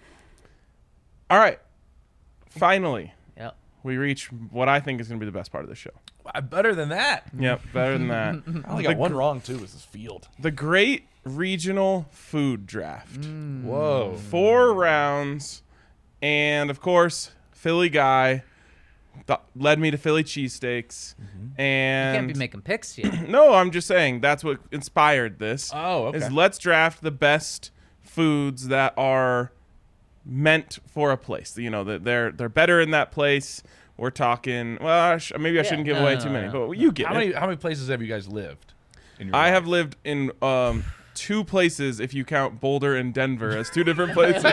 All right. Finally, Yep. we reach what I think is going to be the best part of the show. Uh, Better than that. Yep, better than that. I only got one wrong too. Was this field? The Great Regional Food Draft. Whoa. Four rounds. And, of course, Philly guy th- led me to Philly cheesesteaks. You And can't be making picks here. no, I'm just saying that's what inspired this. Oh, okay. Is let's draft the best foods that are meant for a place. You know, that they're they're better in that place. We're talking. Well, I sh- maybe I Yeah, shouldn't give no, away no, too no, many, no. but you get How it. many how many places have you guys lived? In your I life? have lived in um, two places, if you count Boulder and Denver as two different places.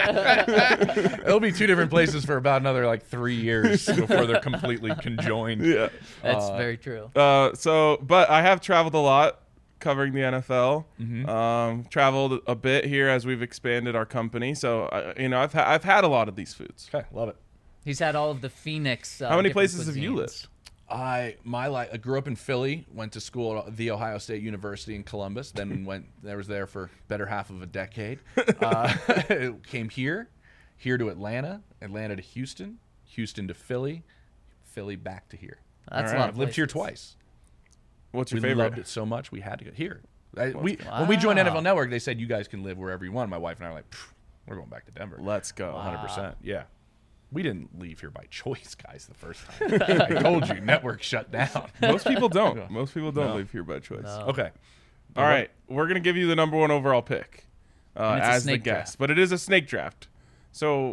It'll be two different places for about another like three years before they're completely conjoined. yeah. That's very true. Uh, so, but I have traveled a lot covering the N F L. Mm-hmm. Um, traveled a bit here as we've expanded our company. So, uh, you know, I've ha- I've had a lot of these foods. Okay, love it. He's had all of the Phoenix. Uh, How many different places have you cuisines. lived? I my life. I grew up in Philly. Went to school at the Ohio State University in Columbus. Then went. There was there for better half of a decade. Uh, came here, here to Atlanta, Atlanta to Houston, Houston to Philly, Philly back to here. That's All a right. lot. I've Of lived here places. twice. What's your We favorite? loved it so much we had to go here. I, we when we joined Wow. N F L Network, they said you guys can live wherever you want. My wife and I were like, "Pfft, we're going back to Denver. Let's go. one hundred percent. Yeah. We didn't leave here by choice, guys, the first time. I told you, network shut down. Most people don't. Most people don't No. live here by choice. No. Okay. All right, we're gonna give you the number one overall pick uh, And it's a as the snake guest, draft. but it is a snake draft, so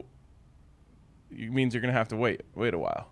it means you're gonna have to wait, wait a while.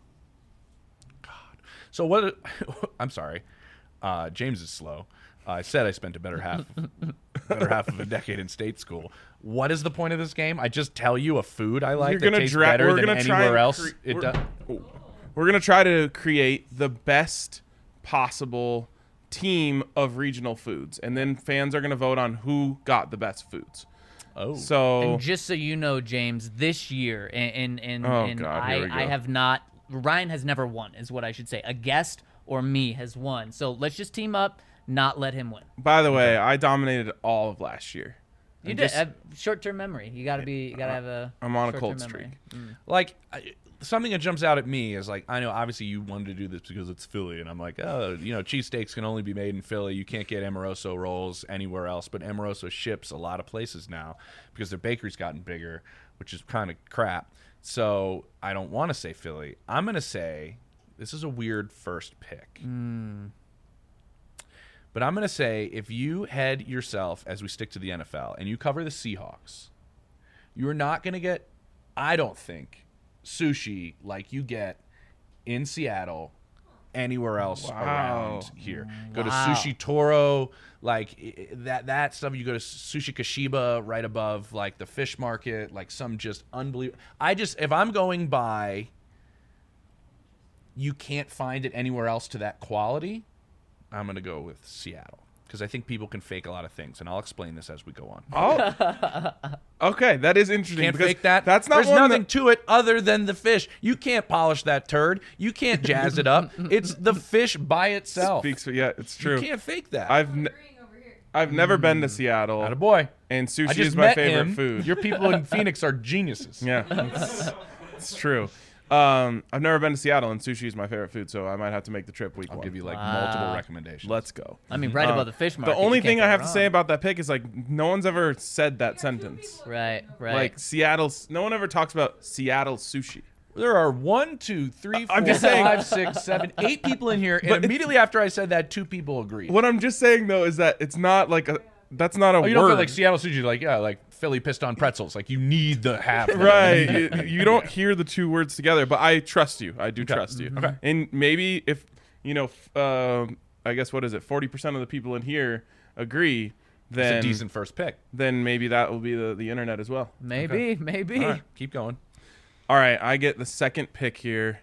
So what? I'm sorry. Uh, James is slow. Uh, I said I spent a better half, better half of a decade in state school. What is the point of this game? I just tell you a food I like You're that gonna tastes dra- better we're than gonna try anywhere and else. cre- it we're- does. We're gonna try to create the best possible team of regional foods, and then fans are gonna vote on who got the best foods. Oh, So And just so you know, James, this year, and and, and, Oh, and God, here I, we go. I have not. Ryan has never won, is what I should say. A guest or me has won. So let's just team up, not let him win. By the way, I dominated all of last year. You And did just- uh, short-term memory. You got to be. You got to have a. I'm on a short-term cold memory. Mm. Like I, something that jumps out at me is like, I know obviously you wanted to do this because it's Philly, and I'm like, oh, you know, cheesesteaks can only be made in Philly. You can't get Amoroso rolls anywhere else, but Amoroso ships a lot of places now because their bakery's gotten bigger, which is kind of crap. So I don't want to say Philly. I'm gonna say this is a weird first pick. Mm. But I'm going to say if you head yourself, as we stick to the N F L, and you cover the Seahawks, you're not going to get, I don't think, sushi like you get in Seattle anywhere else Wow. around here. Go to Wow. Sushi Toro, like i- i- that that stuff. You go to Sushi Kashiba right above like the fish market, like some just unbelievable. I just, if I'm going by, you can't find it anywhere else to that quality, I'm going to go with Seattle because I think people can fake a lot of things, and I'll explain this as we go on. Oh, okay, that is interesting. Can't because fake that. That's not There's one nothing that- to it other than the fish. You can't polish that turd. You can't jazz it up. It's the fish by itself. speaks for yeah, it's true. You can't fake that. I've ne- I've never been to Seattle, Not a boy. and I sushi just is my met favorite him. food. Your people in Phoenix are geniuses. Yeah, it's, it's true. Um, I've never been to Seattle, and sushi is my favorite food, so I might have to make the trip week I'll one. give you like Wow. multiple recommendations. Let's go. I mean, right Uh, above the fish market. The only you can't thing go I have to wrong. say about that pick is like no one's ever said that sentence. Right, right. Like Seattle, no one ever talks about Seattle sushi. There are one, two, three, four, I'm just saying- five, six, seven, eight people in here, and But- immediately after I said that, two people agreed. What I'm just saying though is that it's not like a. That's not a Oh, you word. don't feel like Seattle sushi, like yeah, like Philly piston pretzels. Like you need the half. that. Right. you, you don't hear the two words together, but I trust you. I do trust you. Okay. And maybe if, you know, f- um, I guess what is it? forty percent of the people in here agree, It's then a decent first pick. then maybe that will be the, the internet as well. maybe, maybe. All right, keep going. All right. I get the second pick here.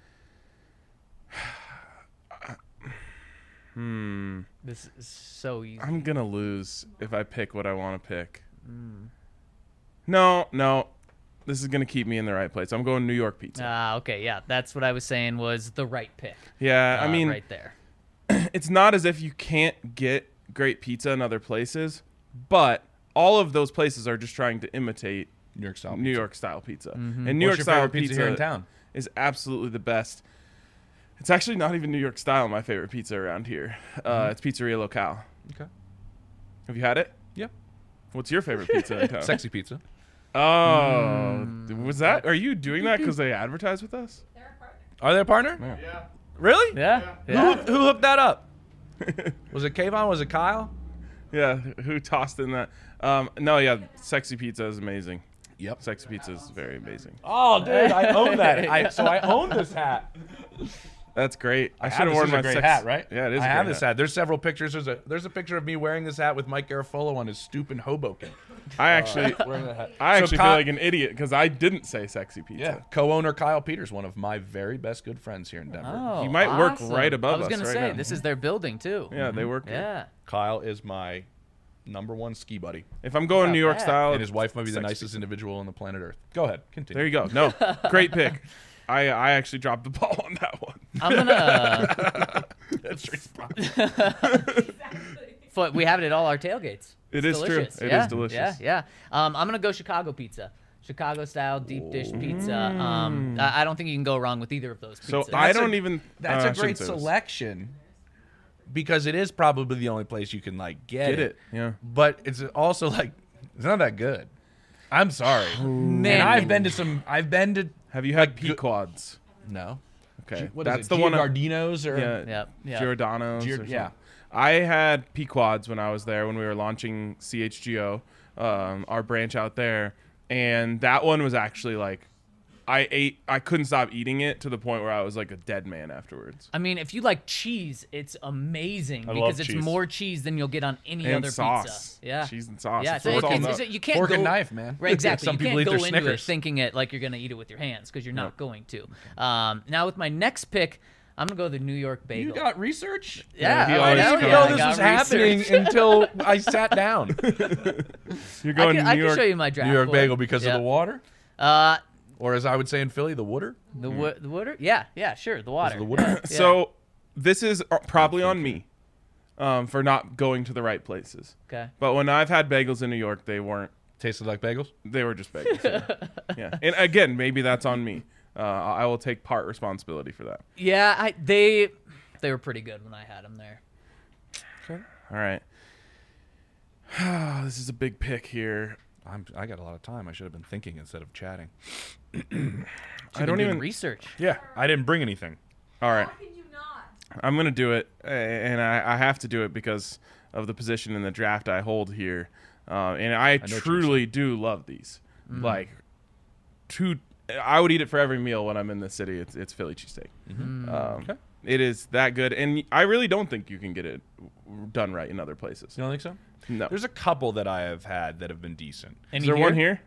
hmm. This is so easy. I'm going to lose if I pick what I want to pick. Mm. No, no. This is going to keep me in the right place. I'm going New York pizza. Ah, okay, yeah, that's what I was saying was the right pick. yeah. I Uh, mean, right there. it's not as if you can't get great pizza in other places, but all of those places are just trying to imitate New York style. New York style pizza. Mm-hmm. And New What's York your style favorite pizza here in town? is absolutely the best. It's actually not even New York style, my favorite pizza around here. Uh, it's Pizzeria Locale. Okay. Have you had it? Yeah. What's your favorite pizza in town? Sexy pizza. Oh, Mm. was that? Are you doing that because they advertise with us? Are they a partner? Yeah. Really? Yeah, Who, yeah. hooked- who hooked that up? Was it Kayvon? Was it Kyle? Yeah, who tossed in that? Um, no, yeah, Sexy Pizza is amazing. Yep. Sexy Pizza is very amazing. Oh, dude, I own that. I, so I own this hat. That's great. I, I should have have this worn is my a great sex- hat, right? Yeah, it is. I a have great this hat. There's several pictures. There's a there's a picture of me wearing this hat with Mike Garofolo on his stoop in Hoboken. I actually, Wearing that hat. I So actually Ky- feel like an idiot because I didn't say Sexy Pizza. Yeah, co-owner Kyle Peters, one of my very best good friends here in Denver. Oh, He might work awesome. right above I was us gonna right say now. this is their building too. Yeah, they work. here. Yeah. Kyle is my number one ski buddy, If I'm going Not New York bad. style, and his wife might be the Sexy nicest individual on the planet Earth. Go ahead, continue. There you go. No, great pick. I I actually dropped the ball on that one. I'm gonna. That's straight But we have it at all our tailgates. It It's is true. delicious. It is yeah, delicious. Yeah, yeah. Um, I'm gonna go Chicago pizza, Chicago style deep dish pizza. Um, I, I don't think you can go wrong with either of those So pizzas. I That's a- don't even. That's uh, a I great shouldn't say this. selection because it is probably the only place you can like get, Get it? Yeah. But it's also like it's not that good. I'm sorry. Man, And I've been to some. I've been to Have you had Like, good- Pequods? no. Okay, What is that's it? the one. I- Giardino's or Yeah, Yep, yep. Giordano's. Gior- or something. yeah. I had Pequods when I was there when we were launching C H G O, um, our branch out there, and that one was actually like, I ate. I couldn't stop eating it to the point where I was like a dead man afterwards. I mean, if you like cheese, it's amazing I because love it's cheese. more cheese than you'll get on any And other sauce. pizza. Yeah, Cheese and sauce. Yeah, That's so what it, it's all it's, about. it's, you can't Fork go, and knife, man. Right, exactly. Some you people can't eat go their into it Snickers. thinking it like you're gonna eat it with your hands because you're not going to. Um, now with my next pick, I'm gonna go the New York bagel. You got research? yeah, he I I always didn't know, even comes. know I this got was happening research. until I sat down. You're I going can, to I New can York. show you my draft New York board. bagel because Yeah. of the water, Uh, or as I would say in Philly, the water. the wa- the water. Yeah, yeah, sure, the water. the water? Yeah, yeah. So, this is uh, probably on me um, for not going to the right places. Okay. But when I've had bagels in New York, they weren't. Tasted like bagels? They were just bagels. Yeah. yeah. And again, maybe that's on me. Uh, I will take part responsibility for that. Yeah, I, they they were pretty good when I had them there. Okay. All right. This is a big pick here. I'm, I got a lot of time. I should have been thinking instead of chatting. I don't even research. Yeah, I didn't bring anything. All right. How can you not? I'm going to do it, and I, I have to do it because of the position in the draft I hold here. Uh, and I, I truly do love these. Mm. Like, two, I would eat it for every meal when I'm in the city. It's, it's Philly cheesesteak. Mm-hmm. Um, okay. It is that good, and I really don't think you can get it done right in other places. You don't think so? No. There's a couple that I have had that have been decent. Any is there here? one here?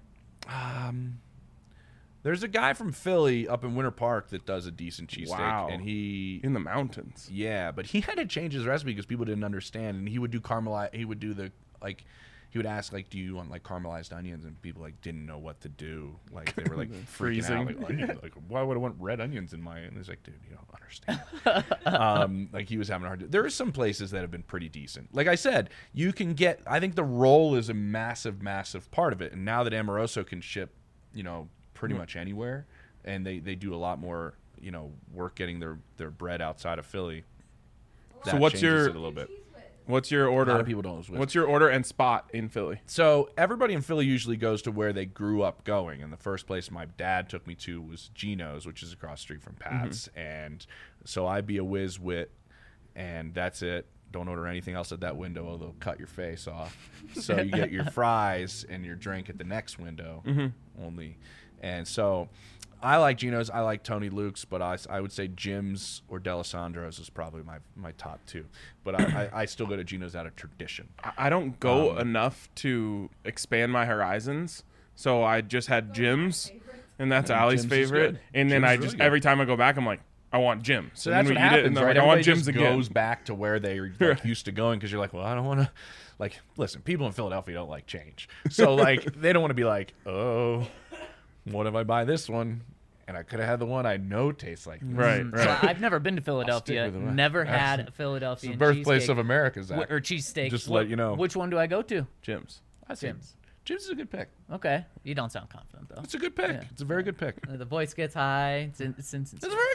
Um, there's a guy from Philly up in Winter Park that does a decent cheesesteak. Wow. And he in the mountains. Yeah, but he had to change his recipe because people didn't understand. And he would do caramelize. He would do the like. He would ask like, "Do you want like caramelized onions?" And people like didn't know what to do. Like they were like freezing. Out, like, onion, like, why would I want red onions in my? And he's like, "Dude, you don't understand." um, like he was having a hard. There are some places that have been pretty decent. Like I said, you can get. I think the roll is a massive, massive part of it. And now that Amoroso can ship, you know, pretty mm-hmm. much anywhere, and they, they do a lot more, you know, work getting their, their bread outside of Philly. So what's your it a little bit. What's your order? A lot of people don't know What's your order and spot in Philly? So everybody in Philly usually goes to where they grew up going. And the first place my dad took me to was Gino's, which is across the street from Pat's. Mm-hmm. And so I be a whiz wit, and that's it. Don't order anything else at that window, or they'll cut your face off. So you get your fries and your drink at the next window mm-hmm. only. And so I like Gino's. I like Tony Luke's, but I, I would say Jim's or D'Alessandro's is probably my, my top two. But I, I, I still go to Gino's out of tradition. I don't go Um, enough to expand my horizons, so I just had Jim's, and that's Allie's Jim's is favorite. good. And then Jim's I is just really good. every time I go back, I'm like, I want Jim's. So And that's then what we eat it, happens, and then right? like, I want Everybody Jim's just again. goes back to where they're like, used to going because you're like, well, I don't want to. Like, listen, people in Philadelphia don't like change, so like they don't want to be like, oh, what if I buy this one? And I could have had the one I know tastes like this. Right, So right. I've never been to Philadelphia. with them. Never had a Philadelphia It's the birthplace cheesesteak. of America, Zach. Wh- or cheesesteak. Just to Wh- let you know. Which one do I go to? Jim's. I see. Jim's. Jim's is a good pick. Okay. You don't sound confident though. It's a good pick. Yeah. It's a very good pick. Uh, The voice gets high. It's, in, it's, in, it's, It's a very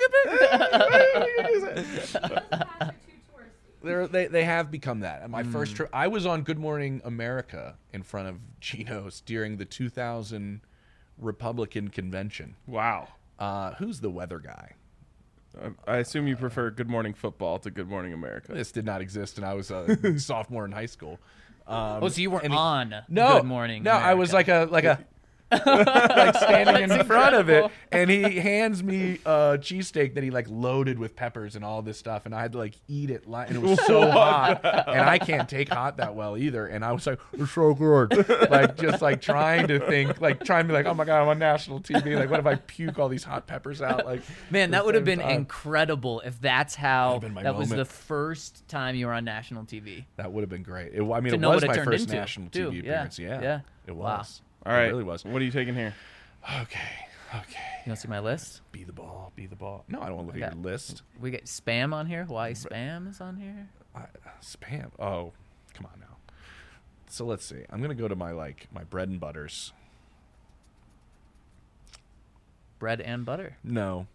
good pick. They're, they they have become that. And my Mm. first trip, I was on Good Morning America in front of Gino's during the two thousand Republican convention. Wow. Uh, who's the weather guy? I- I assume you prefer Good Morning Football to Good Morning America. This did not exist, and I was a sophomore in high school. Um, oh, so you weren't and he- on no, Good Morning No, I was like America. a like a like standing in That's front of it, incredible. and he hands me a cheesesteak that he like loaded with peppers and all this stuff, and I had to like eat it, li- and it was so hot, and I can't take hot that well either, and I was like, it's so good, like just like trying to think, like trying to be like, oh my god, I'm on national T V, like what if I puke all these hot peppers out, like Man, at that the would have same been time. incredible if that's how been my that was moment. the first time you were on national T V. That would have been great. It, I mean, To it know was what it my turned first into, national too. T V Yeah. appearance. Yeah, Yeah. it Wow. was. All right. It really was. What are you taking here? Okay, okay. You want to see my list? Be the ball, be the ball. No, I don't want to look Okay. at your list. We get spam on here. Hawaii spam is on here. I, spam. Oh, come on now. So let's see. I'm gonna go to my like my bread and butters. Bread and butter. No.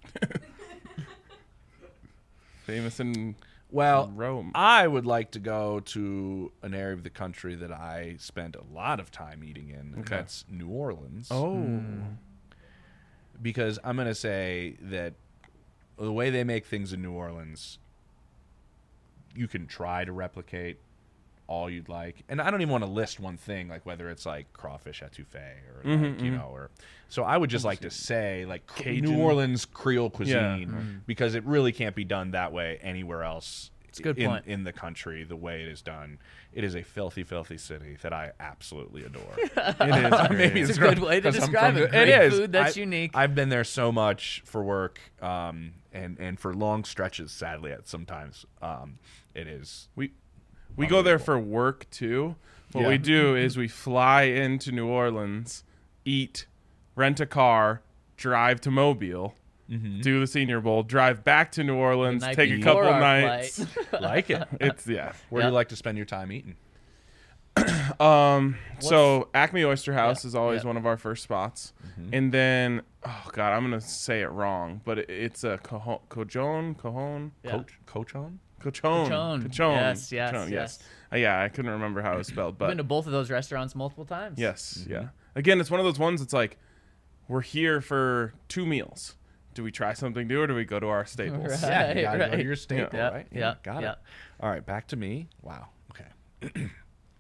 Famous in Well, Rome. I would like to go to an area of the country that I spent a lot of time eating in. And Okay. that's New Orleans. Oh. Because I'm gonna say that the way they make things in New Orleans, you can try to replicate all you'd like, and I don't even want to list one thing, like whether it's like crawfish etouffee or Mhm, like, you mhm. know, or so I would just like to say like cr- Cajun. New Orleans Creole cuisine Yeah. Mhm. because it really can't be done that way anywhere else. It's a good in, point. in the country. The way it is done, it is a filthy, filthy city that I absolutely adore. It is. Maybe It's a wrong, good way to 'cause I'm describe from it. the- Great it is. food that's I- unique. I've been there so much for work, um, and and for long stretches. Sadly, at sometimes, um, it is. We we go there for work too. What Yeah. we do is we fly into New Orleans, eat, rent a car, drive to Mobile, Mm-hmm. do the Senior Bowl, drive back to New Orleans, night take a before couple our nights. flight. Like it. It's yeah. Where do Yep. you like to spend your time eating? Um. So Acme Oyster House Yeah, is always yeah. one of our first spots, Mm-hmm. and then oh god, I'm gonna say it wrong, but it, it's a cojon, cojon, cojon, Yeah. Coach, Cochon? cochon, Cochon. cochon. Yes, yes, Cochon, yes. Uh, yeah, I couldn't remember how it was spelled, I've but been to both of those restaurants multiple times. yes, Mm-hmm. yeah. Again, it's one of those ones. It's like we're here for two meals. Do we try something new, or do we go to our staples? Right. Yeah, you gotta go to right. your staple, Yeah, right? yeah, got yeah. it. All right, back to me. Wow. Okay.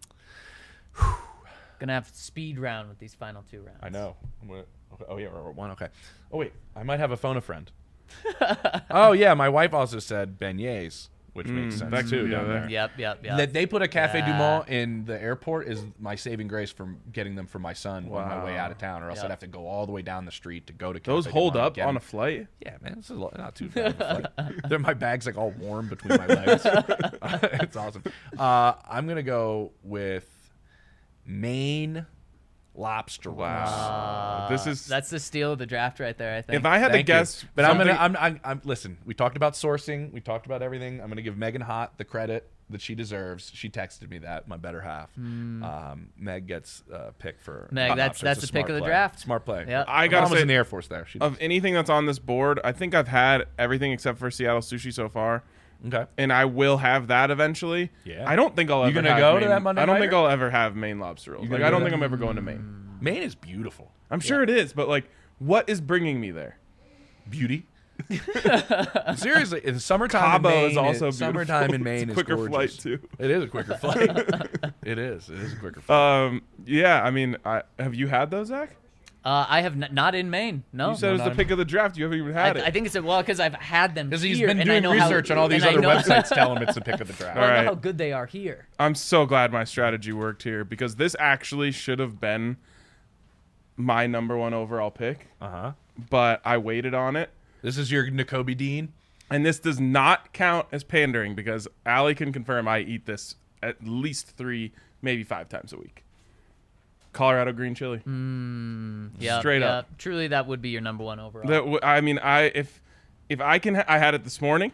Gonna have speed round with these final two rounds. I know. I'm gonna, okay. Oh yeah, we're at one. Okay. Oh wait, I might have a phone a friend. Oh yeah, my wife also said beignets, which makes sense that could too be down there. there. Yep, yep, yep. That they put a Cafe Yeah. Du Monde in the airport is my saving grace from getting them for my son on my way Wow. out of town, or else Yep. I'd have to go all the way down the street to go to Those Cafe Du hold Monde up get on them. a flight. Yeah, man, this is a lo- not too bad. of a flight. They're my bags like all warm between my legs. It's awesome. Uh, I'm gonna go with Maine lobster rolls. Wow. this is That's the steal of the draft right there, I think. if I had Thank to you. guess, but I'm something- gonna. I'm, I'm. I'm. Listen. We talked about sourcing. We talked about everything. I'm gonna give Megan Hott the credit that she deserves. She texted me that my better half. Um, Meg gets uh, picked for Meg, hot that's- lobster. that's It's a the pick smart of the play. draft. Smart play. Yep. I My gotta mom was say- in the Air Force there. She, of anything that's on this board, I think I've had everything except for Seattle sushi so far, okay. and I will have that eventually. Yeah. I don't think I'll You ever gonna have go to Maine- that Monday I don't nighter? think I'll ever have Maine lobster rolls. You Like gonna I go don't to think that? I'm ever going to Maine. Maine is beautiful. I'm sure it is, but like, what is bringing me there? Beauty. Seriously, in summertime Cabo in Maine, is also it- summertime beautiful. in Maine It's a is quicker gorgeous. flight, too. It is a quicker flight. It is. It is a quicker flight. Um, yeah, I mean, I, have you had those, Zach? Uh, I have n- not in Maine. No. You said it was not the in- pick of the draft. You haven't even I, had it. I think it's a, well because I've had them Because here. he's been and I doing know how- research on all these and I other know- websites telling him it's the pick of the draft. Well, I know Alright. how good they are here. I'm so glad my strategy worked here because this actually should have been my number one overall pick, Uh huh. but I waited on it. This is your N'Kobe Dean. And this does not count as pandering because Allie can confirm I eat this at least three, maybe five times a week. Colorado green chili. Yeah, Straight yeah. up. Truly, that would be your number one overall. That w- I mean, I if if I can, ha- I had it this morning.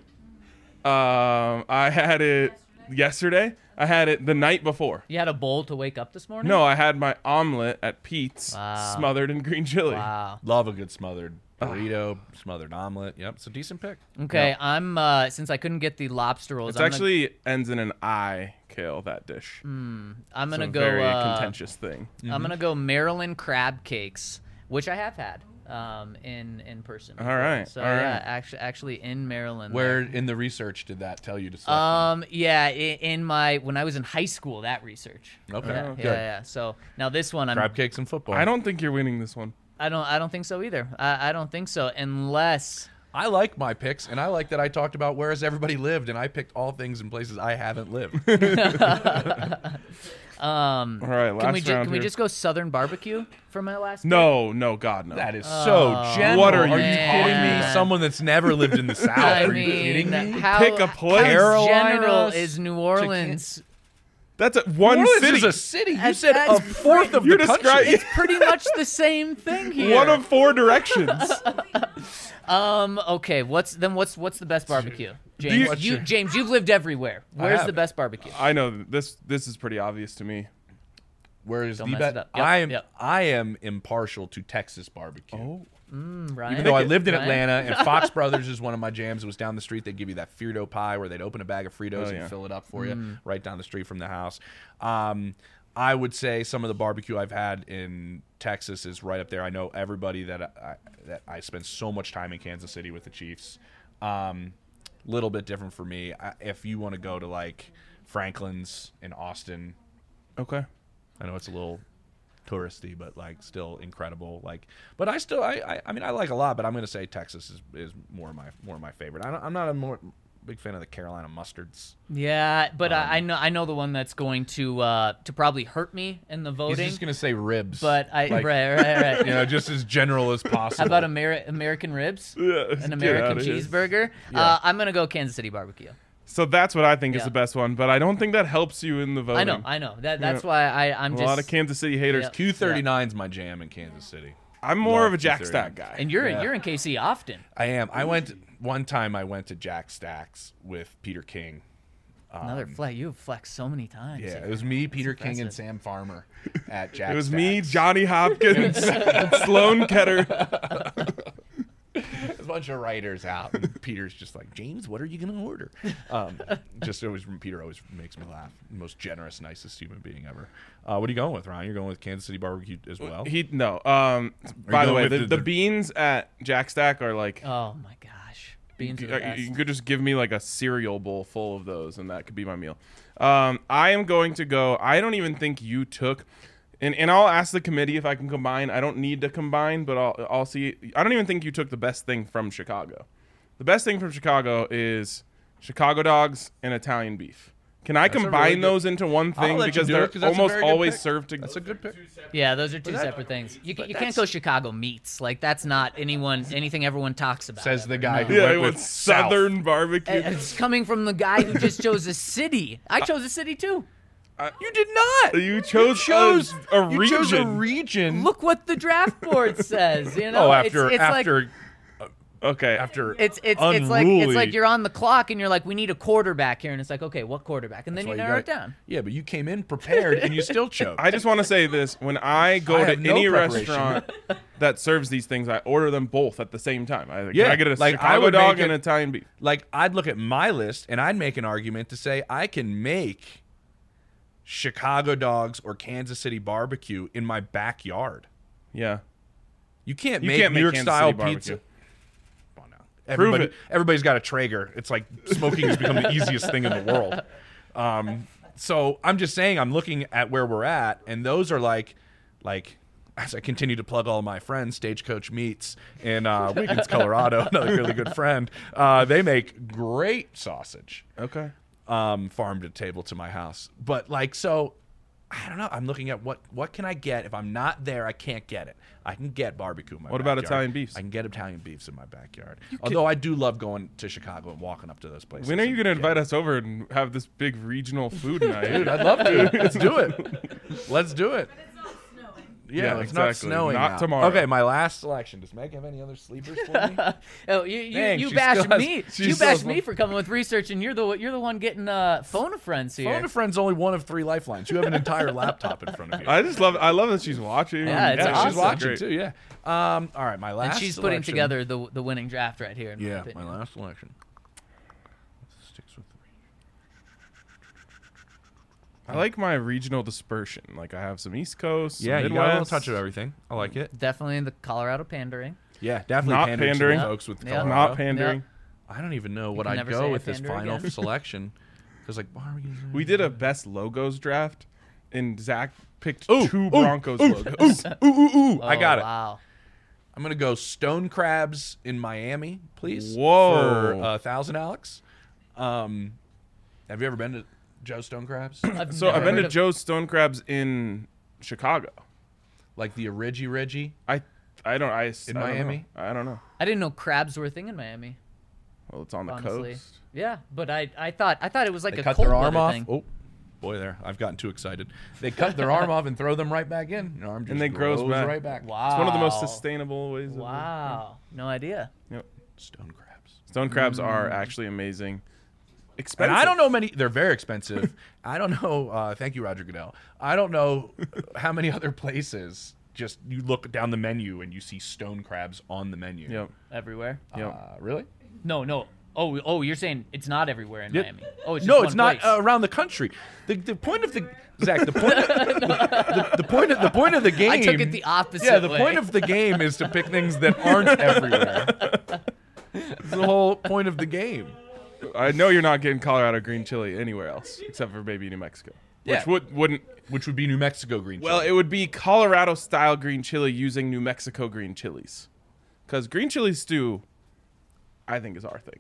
Um, I had it yesterday. I had it the night before. you had a bowl to wake up this morning? No, I had my omelet at Pete's, Wow. smothered in green chili. Wow. Love a good smothered burrito, smothered omelet. Yep, it's a decent pick. Okay, I'm uh since I couldn't get the lobster rolls, It's I'm actually ends in an I. Kale that dish. gonna, I'm It's gonna a go. very uh, contentious thing. I'm gonna go Maryland crab cakes, which I have had um in in person. All before. right, So all yeah, right. actually actually in Maryland. Where there. in the research did that tell you to select? Um yeah, in, in my when I was in high school, that research. Okay, Yeah, good. yeah, yeah. So now this one, I'm crab cakes and football. I don't think you're winning this one. I don't I don't think so either. I, I don't think so unless I like my picks, and I like that I talked about where has everybody lived, and I picked all things in places I haven't lived. um All right, last can we ju- round can we here. just go Southern barbecue for my last pick? No, no, God, no. That is so Oh, general. What are Are you you kidding me? man. Someone that's never lived in the South. I are mean, you kidding me? how, Pick a place. how Carolinas general is New Orleans? That's a, one New Orleans city. is a city. You That's- said a that's fourth of You're the country. describing- It's pretty much the same thing here. One of four directions. um. Okay. What's then? What's what's the best barbecue? you- James, What's you, your- James, you've lived everywhere. Where's have. the best barbecue? I know this. This is pretty obvious to me. Whereas Don't the mess be- it up. Yep, I am yep. I am impartial to Texas barbecue. Oh, Mm, Ryan. Even though I lived in Ryan? Atlanta, and Fox Brothers is one of my jams. It was down the street. They'd give you that Frito pie where they'd open a bag of Fritos Oh, and yeah. fill it up for Mm. you right down the street from the house. Um, I would say some of the barbecue I've had in Texas is right up there. I know everybody that I, that I spent so much time in Kansas City with the Chiefs. Um, little bit different for me. I, if you want to go to like Franklin's in Austin, okay. I know it's a little touristy, but like still incredible. Like, but I still, I, I, I mean, I like a lot, but I'm gonna say Texas is, is more my more my favorite. I don't, I'm not a more big fan of the Carolina mustards. Yeah, but Um, I, I know I know the one that's going to uh, to probably hurt me in the He's voting. just gonna say ribs, But I like, right right right. you know, just as general as possible. How about Ameri- American ribs? Yeah, An get American outta here. cheeseburger? Yeah. Uh, I'm gonna go Kansas City barbecue. So that's what I think is Yeah. the best one, but I don't think that helps you in the voting. I know, I know. That that's Yeah. why I I'm a just lot of Kansas City haters. Yeah. Q thirty-nine's my jam in Kansas City. I'm more Love of a Jack pizzeria. Stack guy. And you're Yeah. you're in K C often. I am. I went one time. I went to Jack Stack's with Peter King. Another flex. You have flexed so many times. Yeah, it was me, Peter King, and impressive. Sam Farmer at Jack. It was me, Stack's. Johnny Hopkins, Sloan Ketter. a bunch of writers out. And Peter's just like, James, what are you gonna order? Um, just always, Peter always makes me laugh. Most generous, nicest human being ever. Uh, what are you going with, Ryan? You're going with Kansas City barbecue as well. He no. Um, by the going way, with the, the- the the- beans at Jack Stack are like. Oh my gosh, beans are You, the best. you could just give me like a cereal bowl full of those, and that could be my meal. Um, I am going to go. I don't even think you took, and, and I'll ask the committee if I can combine. I don't need to combine, but I'll I'll see. I don't even think you took the best thing from Chicago. The best thing from Chicago is Chicago dogs and Italian beef. Can I That's a combine really good- those into one I'll thing let you because do it, they're 'cause that's a almost very good always pick. served together? That's a good pick. Yeah, those are two that- separate things. You, but you can't that's- go Chicago meats. Like that's not anyone anything everyone talks about. Says the ever. guy No. who Yeah, went it with was South. Southern barbecue. And it's coming from the guy who just chose a city. I chose a city too. You did not. You chose, chose a, a you region. chose a region. Look what the draft board says. You know, oh, after it's, it's after like, okay. after it's it's it's like it's unruly- like you're on the clock and you're like, we need a quarterback here, and it's like, okay, what quarterback? And then That's you why narrow got- it down. Yeah, but you came in prepared and you still chose. I just want to say this: when I go I to have no any preparation. restaurant that serves these things, I order them both at the same time. I, Yeah, can I get a like, I Chicago would dog make and it- an Italian beef. Like, I'd look at my list and I'd make an argument to say I can make Chicago dogs or Kansas City barbecue in my backyard. Yeah, You can't You make can't New make York Kansas style City barbecue. pizza. Come on now. Everybody, it. everybody's got a Traeger. It's like smoking has become the easiest thing in the world. Um, so I'm just saying, I'm looking at where we're at, and those are like, like. As I continue to plug all my friends, Stagecoach Meats in uh, Wiggins, Colorado, another really good friend. Uh, they make great sausage, okay. um, farm to table to my house. But like, so I don't know. I'm looking at what what can I get if I'm not there. I can't get it. I can get barbecue in my What about backyard. Italian beefs? I can get Italian beefs in my backyard. Although I do love going to Chicago and walking up to those places. When are you and going to getting- invite us over and have this big regional food night? Dude, I'd love to. Let's do it. Let's do it. But it's not snowing. Yeah, Yeah, it's not exactly. snowing. Not out. tomorrow. Okay, my last selection. Does Meg have any other sleepers for me? Oh, you you, Dang, you she bashed still has- me. she You still bashed has me one. for coming with research, and you're the you're the one getting uh, phone a friends here. Phone a friend's only one of three lifelines. You have an entire laptop in front of you. I just love. I love that she's watching. Yeah, it's yeah, awesome. she's watching Great. too. Yeah. Um. All right, my last. and she's putting selection- together the the winning draft right here. In my Yeah, opinion. my last selection. Sticks with three. I like my regional dispersion. Like I have some East Coast. some Yeah, you got a Midwest. little touch of everything. I like it. Definitely the Colorado pandering. Yeah, definitely Not pandering, to pandering. the folks with Yeah. Colorado. Not pandering. I don't even know what can I'd never go say with I this pander final again. selection. Because like, why are we? Gonna We did a best logos draft, and Zach picked Ooh, two ooh, Broncos ooh, logos. Ooh, ooh, ooh! I Oh, got it. Wow. I'm gonna go Stone Crabs in Miami, please. Whoa. For a thousand, Alex. Um, have you ever been to Joe Stone Crabs? I've So never I've been heard to of- Joe's Stone Crabs in Chicago. Like the Origi Reggie? I I don't I In I don't know. Miami? I don't know. I didn't know crabs were a thing in Miami. Well, it's on the Honestly. coast. Yeah, but I I thought I thought it was like They a cut cold their arm weather off. thing. Oh, boy, there. I've gotten too excited. They cut their arm off and throw them right back in. Your arm just And they grows back. right back. Wow. It's one of the most sustainable ways. Of Wow. No idea. Yep. Stone Crabs. Stone crabs Mm. are actually amazing. And Expensive. I don't know many. They're very expensive. I don't know. Uh, thank you, Roger Goodell. I don't know how many other places. Just you look down the menu and you see stone crabs on the menu. Yep. Everywhere. Yep. Uh, really? No, no. Oh, oh, you're saying it's not everywhere in Yep. Miami. Oh, it's just no, one it's not place. uh, around the country. The, the point of the Zach. The point. Of, the, the, the point. Of, the point of the game. I took it the opposite Yeah, the way. point of the game is to pick things that aren't everywhere. It's the whole point of the game. I know you're not getting Colorado green chili anywhere else except for maybe New Mexico, which Yeah. would wouldn't. Which would be New Mexico green chili. Well, it would be Colorado style green chili using New Mexico green chilies, because green chili stew, I think, is our thing.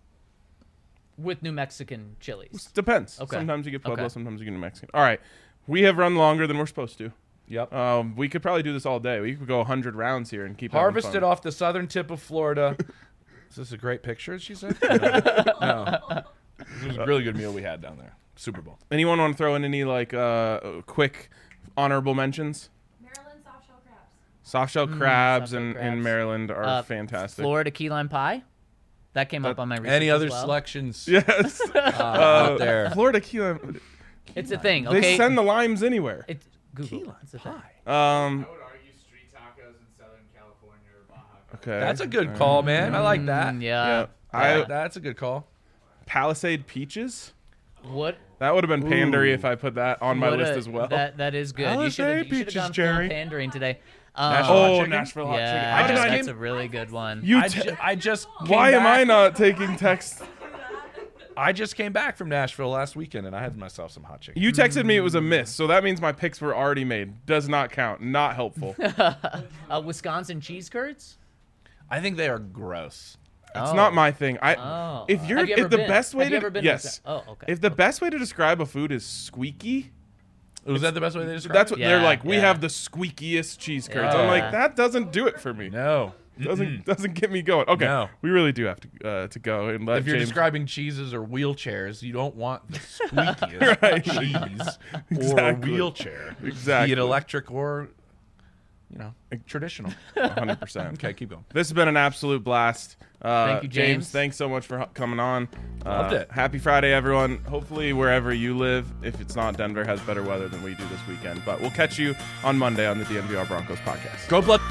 With New Mexican chilies. Depends. Okay. Sometimes you get Pueblo, Okay. sometimes you get New Mexican. All right, we have run longer than we're supposed to. Yep. Um, we could probably do this all day. We could go one hundred rounds here and keep having Harvested fun. off the southern tip of Florida. Is this a great picture, she said? No. no. This was a really good meal we had down there. Super Bowl. Anyone want to throw in any like uh, quick honorable mentions? Maryland soft shell crabs. Soft shell crabs soft-shell in, crabs. in Maryland are Uh, fantastic. Florida key lime pie. That came up on my research Any as other well. selections Yes. uh, out there? Florida key lime. It's a thing. They Okay. send the limes anywhere. It's Google. It's a thing. Um, I would argue street tacos in Southern California or Baja. okay. That's a good call, man. I like that. Mm, Yeah. yeah. I Yeah, that's a good call. Palisade peaches. What? That would have been pandery if I put that on my what list a- as well. That that is good. You should have Palisade you should have peaches, gone full Jerry. pandering today. Um, Nashville hot oh, chicken? Nashville hot yeah, chicken. I just that's came- a really good one. You I, te- ju- I just came Why am back- I not taking text? I just came back from Nashville last weekend and I had myself some hot chicken. You texted me it was a miss, so that means my picks were already made. Does not count. Not helpful. It's uh, Wisconsin cheese curds. I think they are gross. Oh. not my thing. I Oh. if you're Have you ever if the been? best way Have you to ever been to yes. Wisconsin? Oh, okay. If the best way to describe a food is squeaky, Was that the best way they described that's it? what they're Yeah, like. We yeah. have the squeakiest cheese curds. I'm Yeah. like, that doesn't do it for me. No. Doesn't doesn't get me going. Okay, No. we really do have to uh, to go and let If you're James. describing cheeses or wheelchairs, you don't want the squeakiest Right. cheese or Exactly. wheelchair. Exactly. Be it electric or, you know, traditional. one hundred percent. Okay, keep going. This has been an absolute blast. Uh, Thank you, James. Thanks so much for h- coming on. Uh, Loved it. Happy Friday, everyone. Hopefully, wherever you live, if it's not Denver, has better weather than we do this weekend. But we'll catch you on Monday on the D N V R Broncos podcast. Go Blood.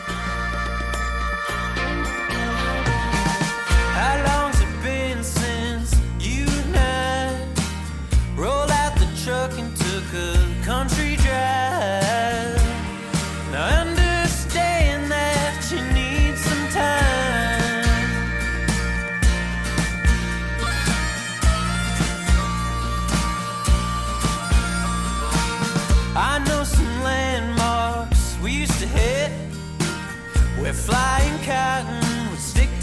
How long's it been since you and I rolled out the truck and took a country drive? Now I understand that you need some time. I know some landmarks we used to hit where flying cotton would stick